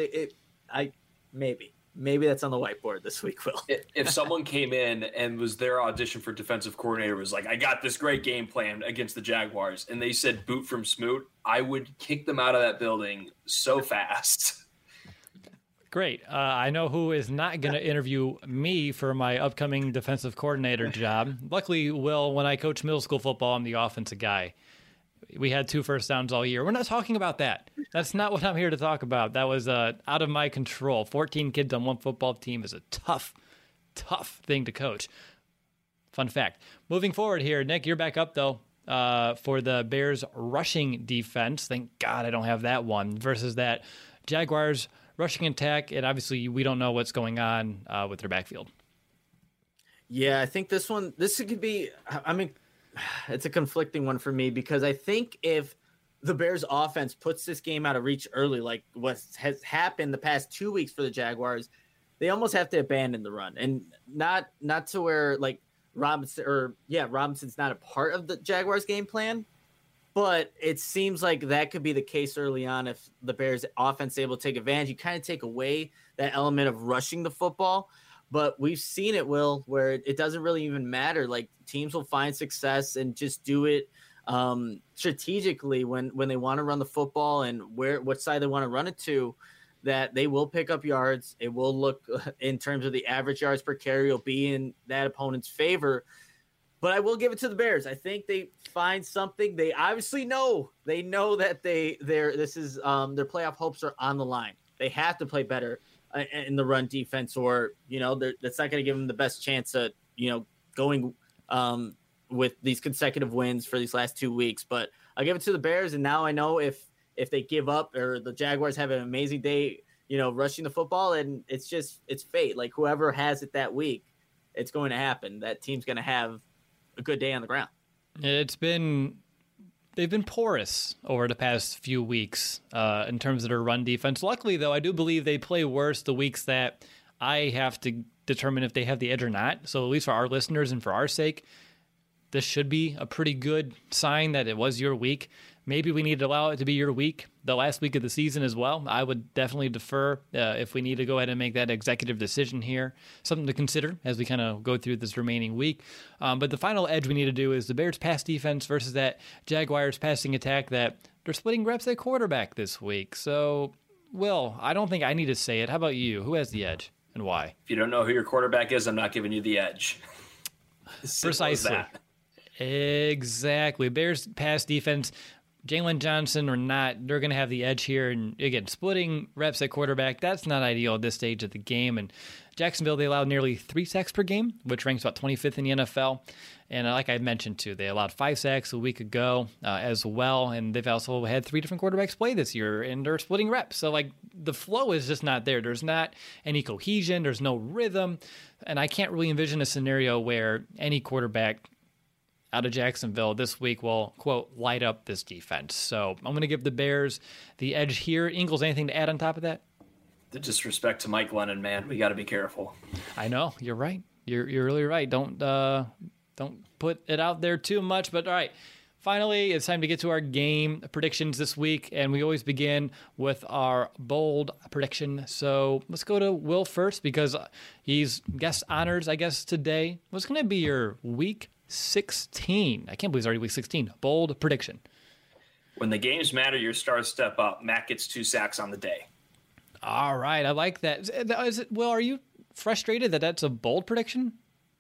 maybe that's on the whiteboard this week. Will, if someone came in and was their audition for defensive coordinator was like, I got this great game plan against the Jaguars, and they said boot from Smoot, I would kick them out of that building so fast. Great. I know who is not going to interview me for my upcoming defensive coordinator job. Luckily, Will, when I coach middle school football, I'm the offensive guy. We had 2 first downs all year. We're not talking about that. That's not what I'm here to talk about. That was out of my control. 14 kids on one football team is a tough thing to coach. Fun fact. Moving forward here, Nick, you're back up, though, for the Bears rushing defense. Thank God I don't have that one versus that Jaguars rushing attack, and obviously we don't know what's going on with their backfield. Yeah, I think this could be, I mean, it's a conflicting one for me because I think if the Bears offense puts this game out of reach early, like what has happened the past 2 weeks for the Jaguars, they almost have to abandon the run, and not to where like Robinson's not a part of the Jaguars game plan. But it seems like that could be the case early on if the Bears offense is able to take advantage. You kind of take away that element of rushing the football. But we've seen it, Will, where it doesn't really even matter. Like teams will find success and just do it strategically when they want to run the football and what side they want to run it to, that they will pick up yards. It will look in terms of the average yards per carry will be in that opponent's favor. But I will give it to the Bears. I think they find something. They obviously know. They know that their playoff hopes are on the line. They have to play better in the run defense, or that's not going to give them the best chance at going with these consecutive wins for these last 2 weeks. But I give it to the Bears, and now I know if they give up or the Jaguars have an amazing day, rushing the football, and it's fate. Like whoever has it that week, it's going to happen. That team's going to have a good day on the ground. They've been porous over the past few weeks in terms of their run defense. Luckily, though, I do believe they play worse the weeks that I have to determine if they have the edge or not. So at least for our listeners and for our sake, this should be a pretty good sign that it was your week. Maybe we need to allow it to be your week, the last week of the season as well. I would definitely defer if we need to go ahead and make that executive decision here. Something to consider as we kind of go through this remaining week. But the final edge we need to do is the Bears pass defense versus that Jaguars passing attack that they're splitting reps at quarterback this week. So, Will, I don't think I need to say it. How about you? Who has the edge and why? If you don't know who your quarterback is, I'm not giving you the edge. Precisely. Exactly. Bears pass defense, Jalen Johnson or not, they're going to have the edge here. And again, splitting reps at quarterback, that's not ideal at this stage of the game. And Jacksonville, they allowed nearly 3 sacks per game, which ranks about 25th in the NFL. And like I mentioned, too, they allowed 5 sacks a week ago as well. And they've also had 3 different quarterbacks play this year, and they're splitting reps. So, like, the flow is just not there. There's not any cohesion. There's no rhythm. And I can't really envision a scenario where any quarterback out of Jacksonville this week will, quote, light up this defense. So I'm going to give the Bears the edge here. Ingles, anything to add on top of that? The disrespect to Mike Glennon, man. We got to be careful. I know. You're right. You're really right. Don't put it out there too much. But all right, finally, it's time to get to our game predictions this week. And we always begin with our bold prediction. So let's go to Will first because he's guest honors, I guess, today. What's going to be your week 16? I can't believe it's already week 16. Bold prediction. When the games matter, your stars step up. Matt gets 2 sacks on the day. All right. I like that. Will, are you frustrated that that's a bold prediction?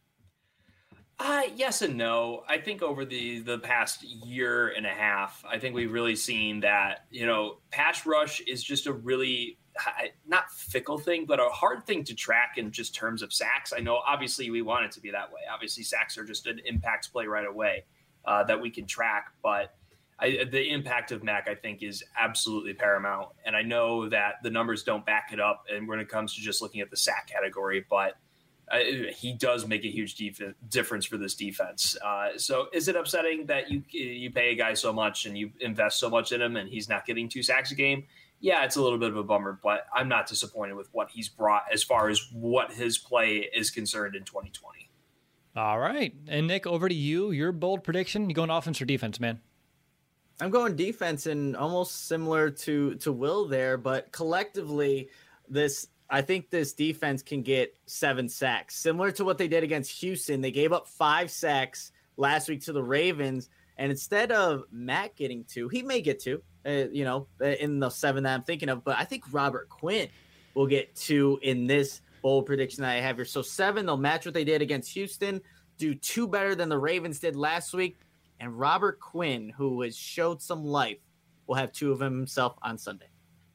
Yes and no. I think over the past year and a half, I think we've really seen that, pass rush is just a really not fickle thing, but a hard thing to track in just terms of sacks. I know obviously we want it to be that way. Obviously sacks are just an impact play right away that we can track, but the impact of Mac, I think, is absolutely paramount. And I know that the numbers don't back it up and when it comes to just looking at the sack category, but he does make a huge difference for this defense. So is it upsetting that you pay a guy so much and you invest so much in him and he's not getting 2 sacks a game? Yeah, it's a little bit of a bummer, but I'm not disappointed with what he's brought as far as what his play is concerned in 2020. All right. And Nick, over to you. Your bold prediction. You going offense or defense, man? I'm going defense, and almost similar to Will there, but collectively, I think this defense can get 7 sacks, similar to what they did against Houston. They gave up 5 sacks last week to the Ravens, and instead of Matt getting 2, he may get 2, in the 7 that I'm thinking of, but I think Robert Quinn will get 2 in this bold prediction that I have here. So 7, they'll match what they did against Houston, do 2 better than the Ravens did last week. And Robert Quinn, who has showed some life, will have 2 of them himself on Sunday.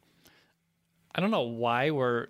I don't know why we're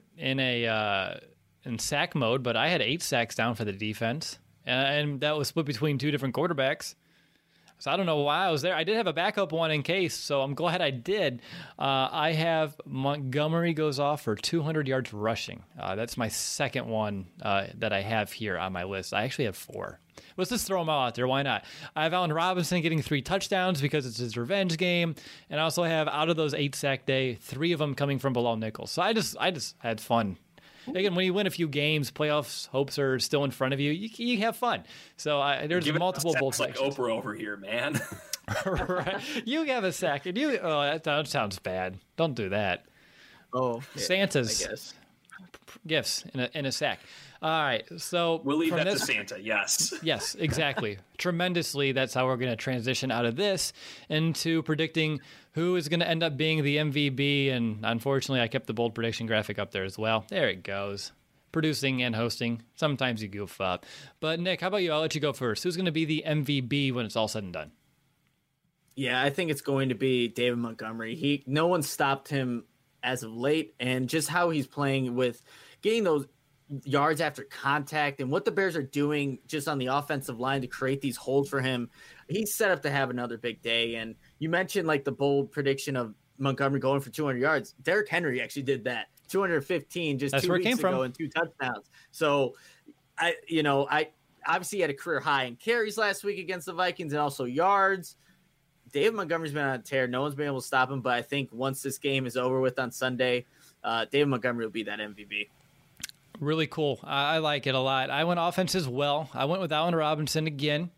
in sack mode, but I had 8 sacks down for the defense, and that was split between 2 different quarterbacks. So I don't know why I was there. I did have a backup one in case, so I'm glad I did. I have Montgomery goes off for 200 yards rushing. That's my second one that I have here on my list. I actually have 4. Let's just throw them all out there. Why not? I have Allen Robinson getting 3 touchdowns because it's his revenge game, and I also have, out of those 8 sack day, 3 of them coming from below nickels. So I just had fun. Again, when you win a few games, playoffs hopes are still in front of you. You have fun. So there's multiple bold predictions. Like Oprah over here, man. Right. You have a sack, and that sounds bad. Don't do that. Oh, Santa's, I guess. Gifts in a sack. All right, so we'll leave that to Santa. Yes. Yes, exactly. Tremendously, that's how we're going to transition out of this into predicting who is going to end up being the MVP. And unfortunately, I kept the bold prediction graphic up there as well. There it goes. Producing and hosting. Sometimes you goof up. But Nick, how about you? I'll let you go first. Who's going to be the MVP when it's all said and done? Yeah, I think it's going to be David Montgomery. No one stopped him as of late, and just how he's playing with getting those yards after contact and what the Bears are doing just on the offensive line to create these holes for him. He's set up to have another big day. And you mentioned like the bold prediction of Montgomery going for 200 yards. Derrick Henry actually did that. 215 just 2 weeks ago and 2 touchdowns. So I obviously had a career high in carries last week against the Vikings and also yards. David Montgomery's been on a tear. No one's been able to stop him. But I think once this game is over with on Sunday, David Montgomery will be that MVP. Really cool. I like it a lot. I went offense as well. I went with Allen Robinson again.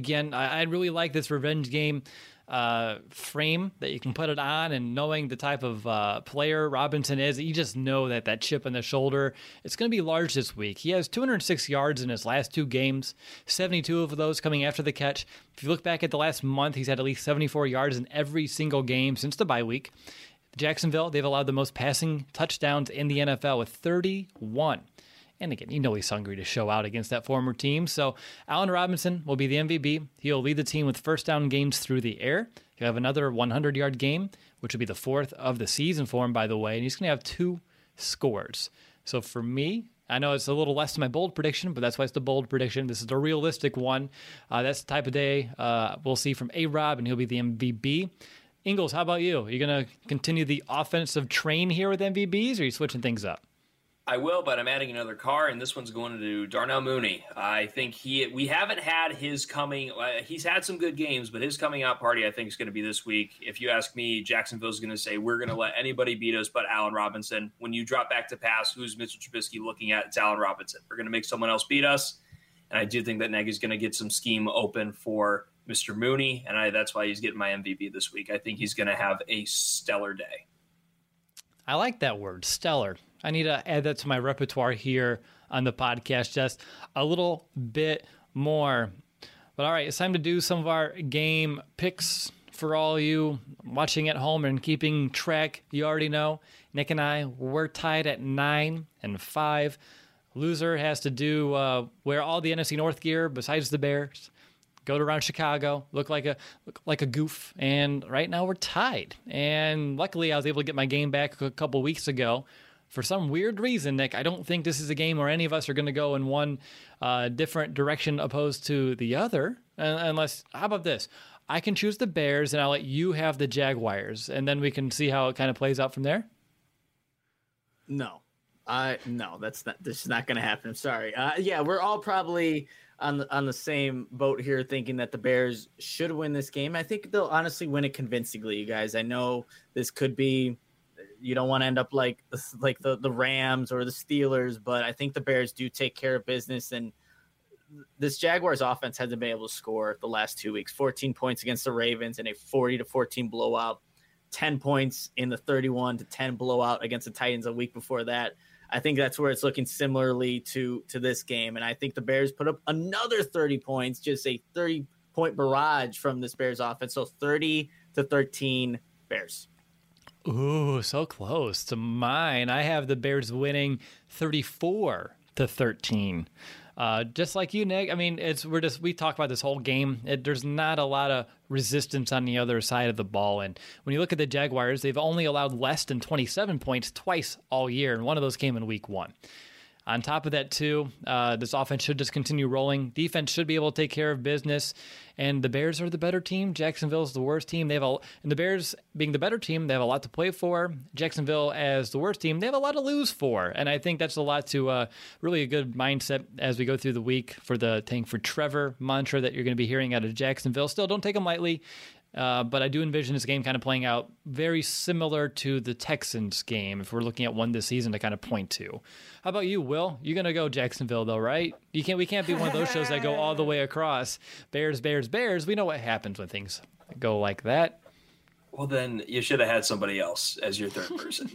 I really like this revenge game frame that you can put it on, and knowing the type of player Robinson is, you just know that chip on the shoulder, it's going to be large this week. He has 206 yards in his last 2 games, 72 of those coming after the catch. If you look back at the last month, he's had at least 74 yards in every single game since the bye week. Jacksonville, they've allowed the most passing touchdowns in the NFL with 31. And again, he's hungry to show out against that former team. So Allen Robinson will be the MVP. He'll lead the team with first down gains through the air. He'll have another 100-yard game, which will be the 4th of the season for him, by the way. And he's going to have 2 scores. So for me, I know it's a little less than my bold prediction, but that's why it's the bold prediction. This is the realistic one. That's the type of day we'll see from A-Rob, and he'll be the MVP. Ingles, how about you? Are you going to continue the offensive train here with MVBs, or are you switching things up? I will, but I'm adding another car, and this one's going to Darnell Mooney. I think we haven't had his coming. He's had some good games, but his coming out party, I think, is going to be this week. If you ask me, Jacksonville's going to say, we're going to let anybody beat us but Allen Robinson. When you drop back to pass, who's Mr. Trubisky looking at? It's Allen Robinson. We're going to make someone else beat us, and I do think that Nagy's going to get some scheme open for Mr. Mooney, and that's why he's getting my MVP this week. I think he's going to have a stellar day. I like that word, stellar. I need to add that to my repertoire here on the podcast just a little bit more. But all right, it's time to do some of our game picks for all you watching at home and keeping track. You already know, Nick and I, we're tied at 9-5. Loser has to do wear all the NFC North gear besides the Bears, go around Chicago, look like a goof, and right now we're tied. And luckily, I was able to get my game back a couple weeks ago. For some weird reason, Nick, I don't think this is a game where any of us are going to go in one different direction opposed to the other. Unless, how about this? I can choose the Bears, and I'll let you have the Jaguars, and then we can see how it kind of plays out from there. No, this is not going to happen. I'm sorry. Yeah, we're all probably on the same boat here, thinking that the Bears should win this game. I think they'll honestly win it convincingly, you guys. I know this could be. You don't want to end up like the Rams or the Steelers, but I think the Bears do take care of business, and this Jaguars offense hasn't been able to score the last 2 weeks. 14 points against the Ravens in a 40-14 blowout, 10 points in the 31-10 blowout against the Titans a week before that. I think that's where it's looking similarly to this game. And I think the Bears put up another 30 points, just a 30-point barrage from this Bears offense. So 30-13 Bears. Ooh, so close to mine. I have the Bears winning 34-13. Just like you, Nick. I mean, we talk about this whole game. There's not a lot of resistance on the other side of the ball. And when you look at the Jaguars, they've only allowed less than 27 points twice all year, and one of those came in week 1. On top of that, too, this offense should just continue rolling. Defense should be able to take care of business. And the Bears are the better team. Jacksonville's the worst team. And the Bears being the better team, they have a lot to play for. Jacksonville, as the worst team, they have a lot to lose for. And I think that's a lot to really a good mindset as we go through the week for the Tank for Trevor mantra that you're going to be hearing out of Jacksonville. Still, don't take them lightly. But I do envision this game kind of playing out very similar to the Texans game if we're looking at one this season to kind of point to. How about you, Will? You're going to go Jacksonville, though, right? We can't be one of those shows that go all the way across. Bears, Bears, Bears. We know what happens when things go like that. Well, then you should have had somebody else as your third person.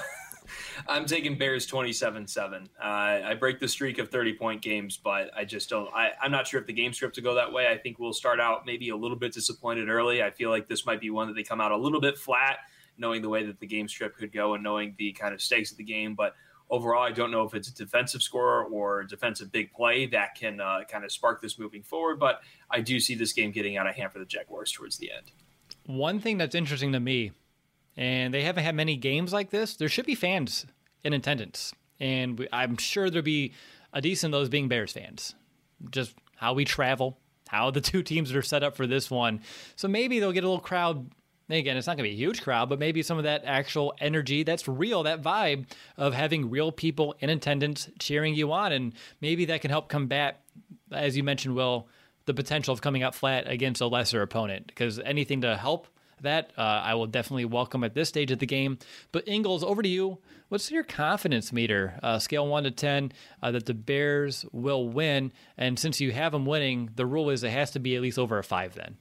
I'm taking Bears 27-7. I break the streak of 30-point games, but I just don't. I'm not sure if the game script to go that way. I think we'll start out maybe a little bit disappointed early. I feel like this might be one that they come out a little bit flat, knowing the way that the game script could go and knowing the kind of stakes of the game. But overall, I don't know if it's a defensive score or defensive big play that can kind of spark this moving forward. But I do see this game getting out of hand for the Jaguars towards the end. One thing that's interesting to me, and they haven't had many games like this, there should be fans in attendance. And I'm sure there'll be a decent of those being Bears fans. Just how we travel, how the two teams are set up for this one. So maybe they'll get a little crowd. Again, it's not going to be a huge crowd, but maybe some of that actual energy that's real, that vibe of having real people in attendance cheering you on. And maybe that can help combat, as you mentioned, Will, the potential of coming out flat against a lesser opponent. Because anything to help that, I will definitely welcome at this stage of the game. But Ingles, over to you. What's your confidence meter, scale 1 to 10, that the Bears will win? And since you have them winning, the rule is it has to be at least over a 5 then.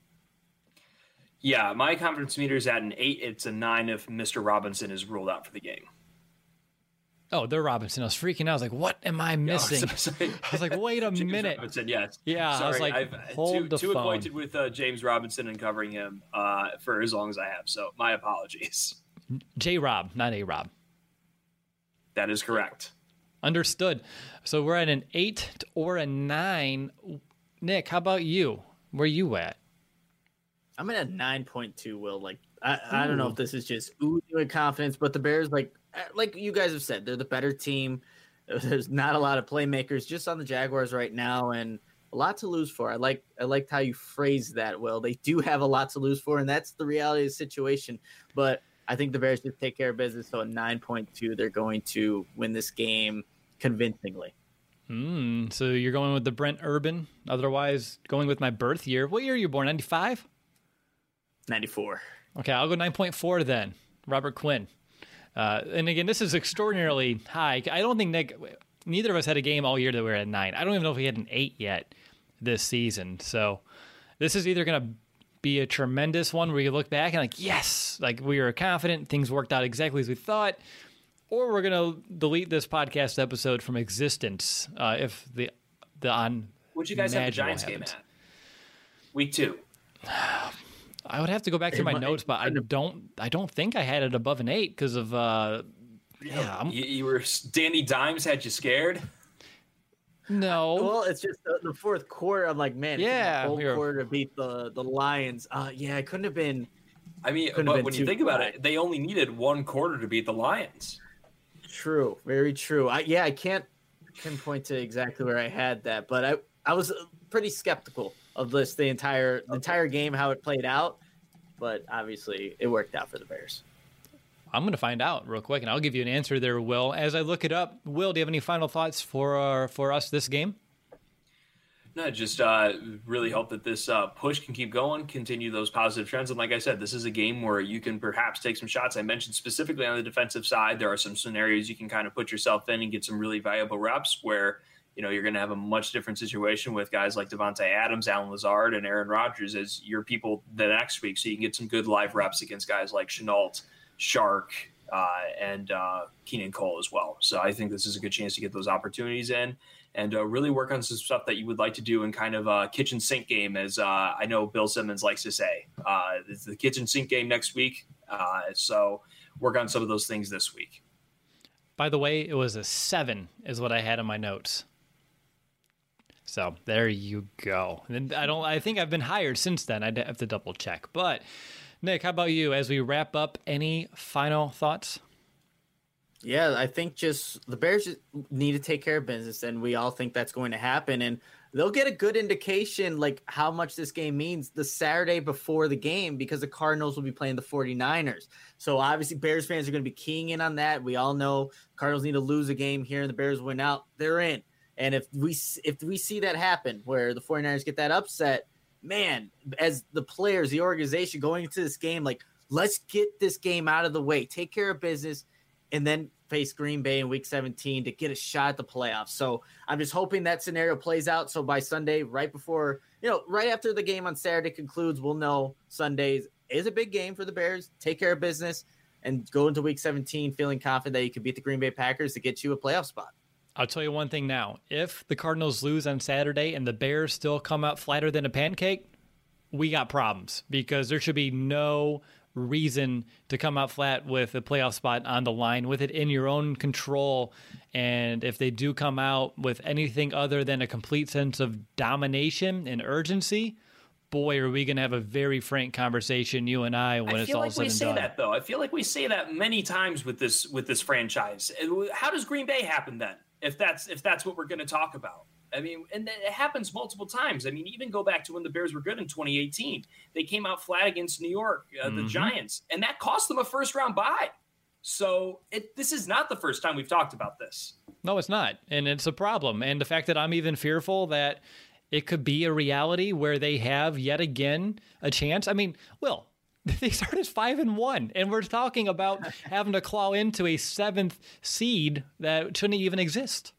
Yeah, my confidence meter is at an 8. It's a 9 if Mr. Robinson is ruled out for the game. Oh, they're Robinson. I was freaking out. I was like, what am I missing? I was like, wait a minute. Robinson, yes. Yeah, sorry, I was like, hold the phone. Too acquainted with James Robinson and covering him for as long as I have. So my apologies. J-Rob, not A-Rob. That is correct. Understood. So we're at an 8 or a 9. Nick, how about you? Where are you at? I'm at a 9.2, Will. Like, I don't know if this is just oozing with confidence, but the Bears, like you guys have said, they're the better team. There's not a lot of playmakers just on the Jaguars right now, and a lot to lose for. I liked how you phrased that, Will. They do have a lot to lose for, and that's the reality of the situation. But I think the Bears just take care of business. So a 9.2, they're going to win this game convincingly. So you're going with the Brent Urban, otherwise going with my birth year. What year are you born? 95? 94. Okay, I'll go 9.4 then. Robert Quinn. And again, this is extraordinarily high. I don't think neither of us had a game all year that we were at 9. I don't even know if we had an 8 yet this season. So this is either going to be a tremendous one where you look back and like, yes, like we were confident, things worked out exactly as we thought, or we're going to delete this podcast episode from existence if the on. What'd you guys have the Giants game at? Week 2. I would have to go back through my notes, but I don't think I had it above an 8 because of you were Danny Dimes had you scared. No. Well, it's just the fourth quarter. I'm like, man, yeah, whole quarter to beat the Lions. Yeah, it couldn't have been. I mean, but when you think about it, they only needed one quarter to beat the Lions. True, very true. I can't pinpoint to exactly where I had that, but I was pretty skeptical of this the entire game, how it played out. But obviously, it worked out for the Bears. I'm going to find out real quick, and I'll give you an answer there, Will. As I look it up, Will, do you have any final thoughts for us this game? No, just really hope that this push can keep going, continue those positive trends. And like I said, this is a game where you can perhaps take some shots. I mentioned specifically on the defensive side, there are some scenarios you can kind of put yourself in and get some really valuable reps where you're going to have a much different situation with guys like Devontae Adams, Allen Lazard, and Aaron Rodgers as your people the next week. So you can get some good live reps against guys like Shenault, Shark, and Keenan Cole as well. So I think this is a good chance to get those opportunities in and really work on some stuff that you would like to do in kind of a kitchen sink game, as I know Bill Simmons likes to say. It's the kitchen sink game next week. So work on some of those things this week. By the way, it was a 7 is what I had in my notes. So there you go. And I think I've been hired since then. I'd have to double check. But Nick, how about you? As we wrap up, any final thoughts? Yeah, I think just the Bears just need to take care of business, and we all think that's going to happen. And they'll get a good indication like how much this game means the Saturday before the game, because the Cardinals will be playing the 49ers. So obviously Bears fans are going to be keying in on that. We all know Cardinals need to lose a game here and the Bears win out, they're in. And if we see that happen where the 49ers get that upset, man, as the players, the organization going into this game, like, let's get this game out of the way, take care of business, and then face Green Bay in week 17 to get a shot at the playoffs. So I'm just hoping that scenario plays out. So by Sunday, right after the game on Saturday concludes, we'll know Sunday is a big game for the Bears. Take care of business and go into week 17 feeling confident that you can beat the Green Bay Packers to get you a playoff spot. I'll tell you one thing now. If the Cardinals lose on Saturday and the Bears still come out flatter than a pancake, we got problems, because there should be no reason to come out flat with a playoff spot on the line, with it in your own control. And if they do come out with anything other than a complete sense of domination and urgency, boy, are we going to have a very frank conversation, you and I, when it's all said and done. I feel like we say that, though. I feel like we say that many times with this franchise. How does Green Bay happen then, if that's what we're going to talk about? I mean, and it happens multiple times. I mean, even go back to when the Bears were good in 2018. They came out flat against New York, the Giants, and that cost them a first-round bye. So this is not the first time we've talked about this. No, it's not, and it's a problem. And the fact that I'm even fearful that it could be a reality where they have yet again a chance. I mean, Will, they started 5-1, and we're talking about having to claw into a 7th seed that shouldn't even exist.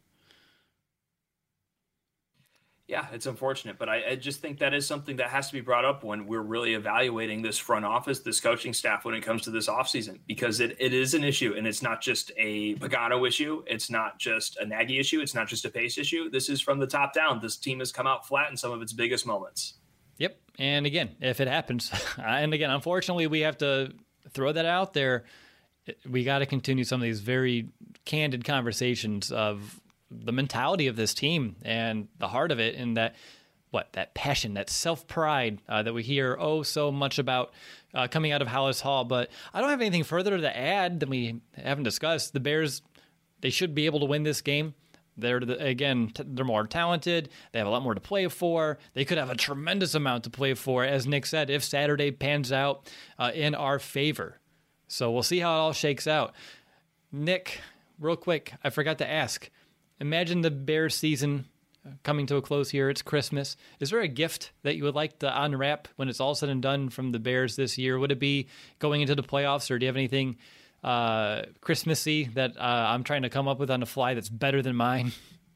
Yeah, it's unfortunate, but I just think that is something that has to be brought up when we're really evaluating this front office, this coaching staff, when it comes to this offseason, because it is an issue, and it's not just a Pagano issue. It's not just a Nagy issue. It's not just a Pace issue. This is from the top down. This team has come out flat in some of its biggest moments. Yep, and again, if it happens, and again, unfortunately, we have to throw that out there. We got to continue some of these very candid conversations of the mentality of this team and the heart of it, and that passion, that self-pride that we hear so much about coming out of Hallis Hall. But I don't have anything further to add than we haven't discussed. The Bears, they should be able to win this game. They're more talented. They have a lot more to play for. They could have a tremendous amount to play for, as Nick said, if Saturday pans out in our favor. So we'll see how it all shakes out. Nick, real quick, I forgot to ask. Imagine the Bears season coming to a close here. It's Christmas. Is there a gift that you would like to unwrap when it's all said and done from the Bears this year? Would it be going into the playoffs, or do you have anything Christmassy that I'm trying to come up with on the fly that's better than mine?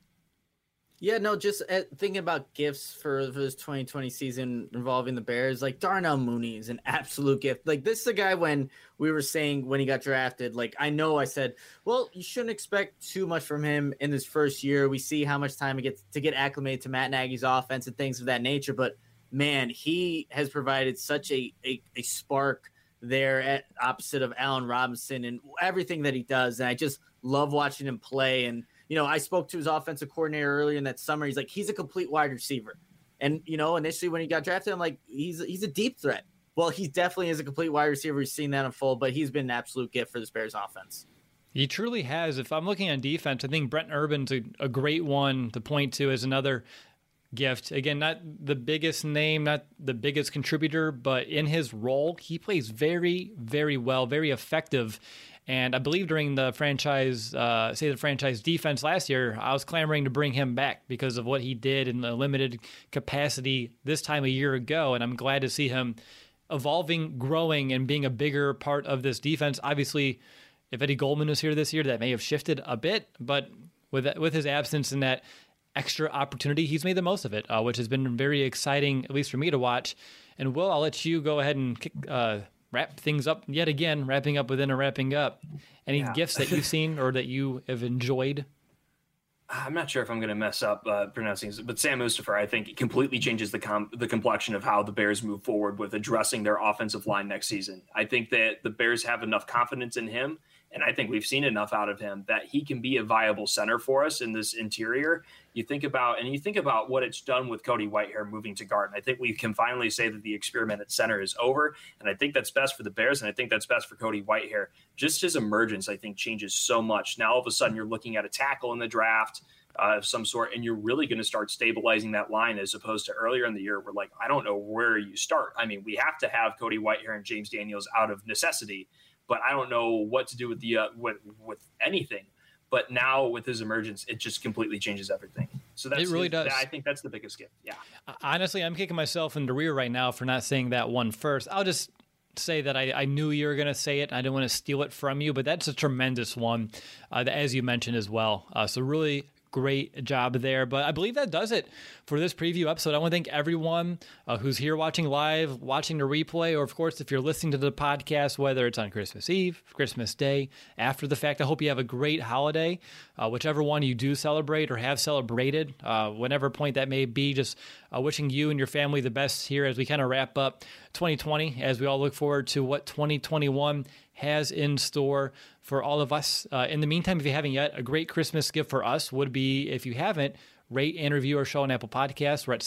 Yeah, no, just thinking about gifts for this 2020 season involving the Bears, like Darnell Mooney is an absolute gift. Like, this is a guy, when we were saying when he got drafted, like, I know I said, well, you shouldn't expect too much from him in his first year. We see how much time it gets to get acclimated to Matt Nagy's offense and things of that nature. But, man, he has provided such a spark there at opposite of Allen Robinson and everything that he does. And I just love watching him play. And, you know, I spoke to his offensive coordinator earlier in that summer. He's like, he's a complete wide receiver. And, you know, initially when he got drafted, I'm like, he's a deep threat. Well, he definitely is a complete wide receiver. We've seen that unfold, but he's been an absolute gift for this Bears offense. He truly has. If I'm looking on defense, I think Brent Urban's a great one to point to as another gift. Again, not the biggest name, not the biggest contributor, but in his role, he plays very, very well, very effective. And I believe during the franchise defense last year, I was clamoring to bring him back because of what he did in the limited capacity this time a year ago. And I'm glad to see him evolving, growing, and being a bigger part of this defense. Obviously, if Eddie Goldman was here this year, that may have shifted a bit, but with his absence and that extra opportunity, he's made the most of it, which has been very exciting, at least for me to watch. And Will, I'll let you go ahead and wrap things up yet again, wrapping up within a wrapping up. Any gifts that you've seen or that you have enjoyed? I'm not sure if I'm going to mess up pronouncing this, but Sam Mustipher, I think, completely changes the complexion of how the Bears move forward with addressing their offensive line next season. I think that the Bears have enough confidence in him, and I think we've seen enough out of him that he can be a viable center for us in this interior. You think about what it's done with Cody Whitehair moving to guard. And I think we can finally say that the experiment at center is over. And I think that's best for the Bears. And I think that's best for Cody Whitehair. Just his emergence, I think, changes so much. Now, all of a sudden, you're looking at a tackle in the draft of some sort, and you're really going to start stabilizing that line as opposed to earlier in the year where, like, I don't know where you start. I mean, we have to have Cody Whitehair and James Daniels out of necessity, but I don't know what to do with the with anything. But now with his emergence, it just completely changes everything. So it really does. I think that's the biggest gift. Yeah. Honestly, I'm kicking myself in the rear right now for not saying that one first. I'll just say that I knew you were going to say it. I didn't want to steal it from you, but that's a tremendous one, as you mentioned as well. So really great job there. But I believe that does it for this preview episode. I want to thank everyone who's here watching live, watching the replay, or of course, if you're listening to the podcast, whether it's on Christmas Eve, Christmas Day, after the fact. I hope you have a great holiday, whichever one you do celebrate or have celebrated, whatever point that may be. Just wishing you and your family the best here as we kind of wrap up 2020, as we all look forward to what 2021 has in store for all of us. In the meantime, if you haven't yet, a great Christmas gift for us would be, if you haven't, rate and review our show on Apple Podcasts. We're at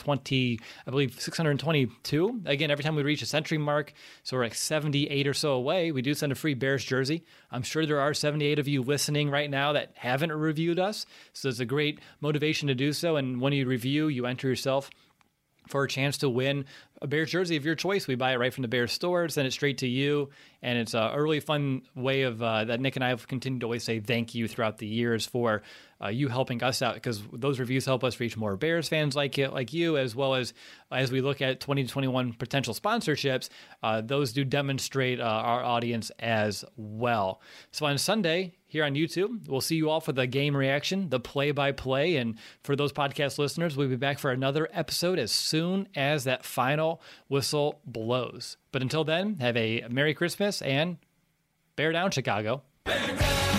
622. Again, every time we reach a century mark, so we're like 78 or so away, we do send a free Bears jersey. I'm sure there are 78 of you listening right now that haven't reviewed us, so it's a great motivation to do so. And when you review, you enter yourself for a chance to win a Bears jersey of your choice. We buy it right from the Bears store, send it straight to you, and it's a really fun way of that Nick and I have continued to always say thank you throughout the years for you helping us out, because those reviews help us reach more Bears fans like you, as well as we look at 2021 potential sponsorships. Those do demonstrate our audience as well. So on Sunday, here on YouTube, we'll see you all for the game reaction, the play-by-play, and for those podcast listeners, we'll be back for another episode as soon as that final whistle blows. But until then, have a Merry Christmas and bear down, Chicago. Bear down!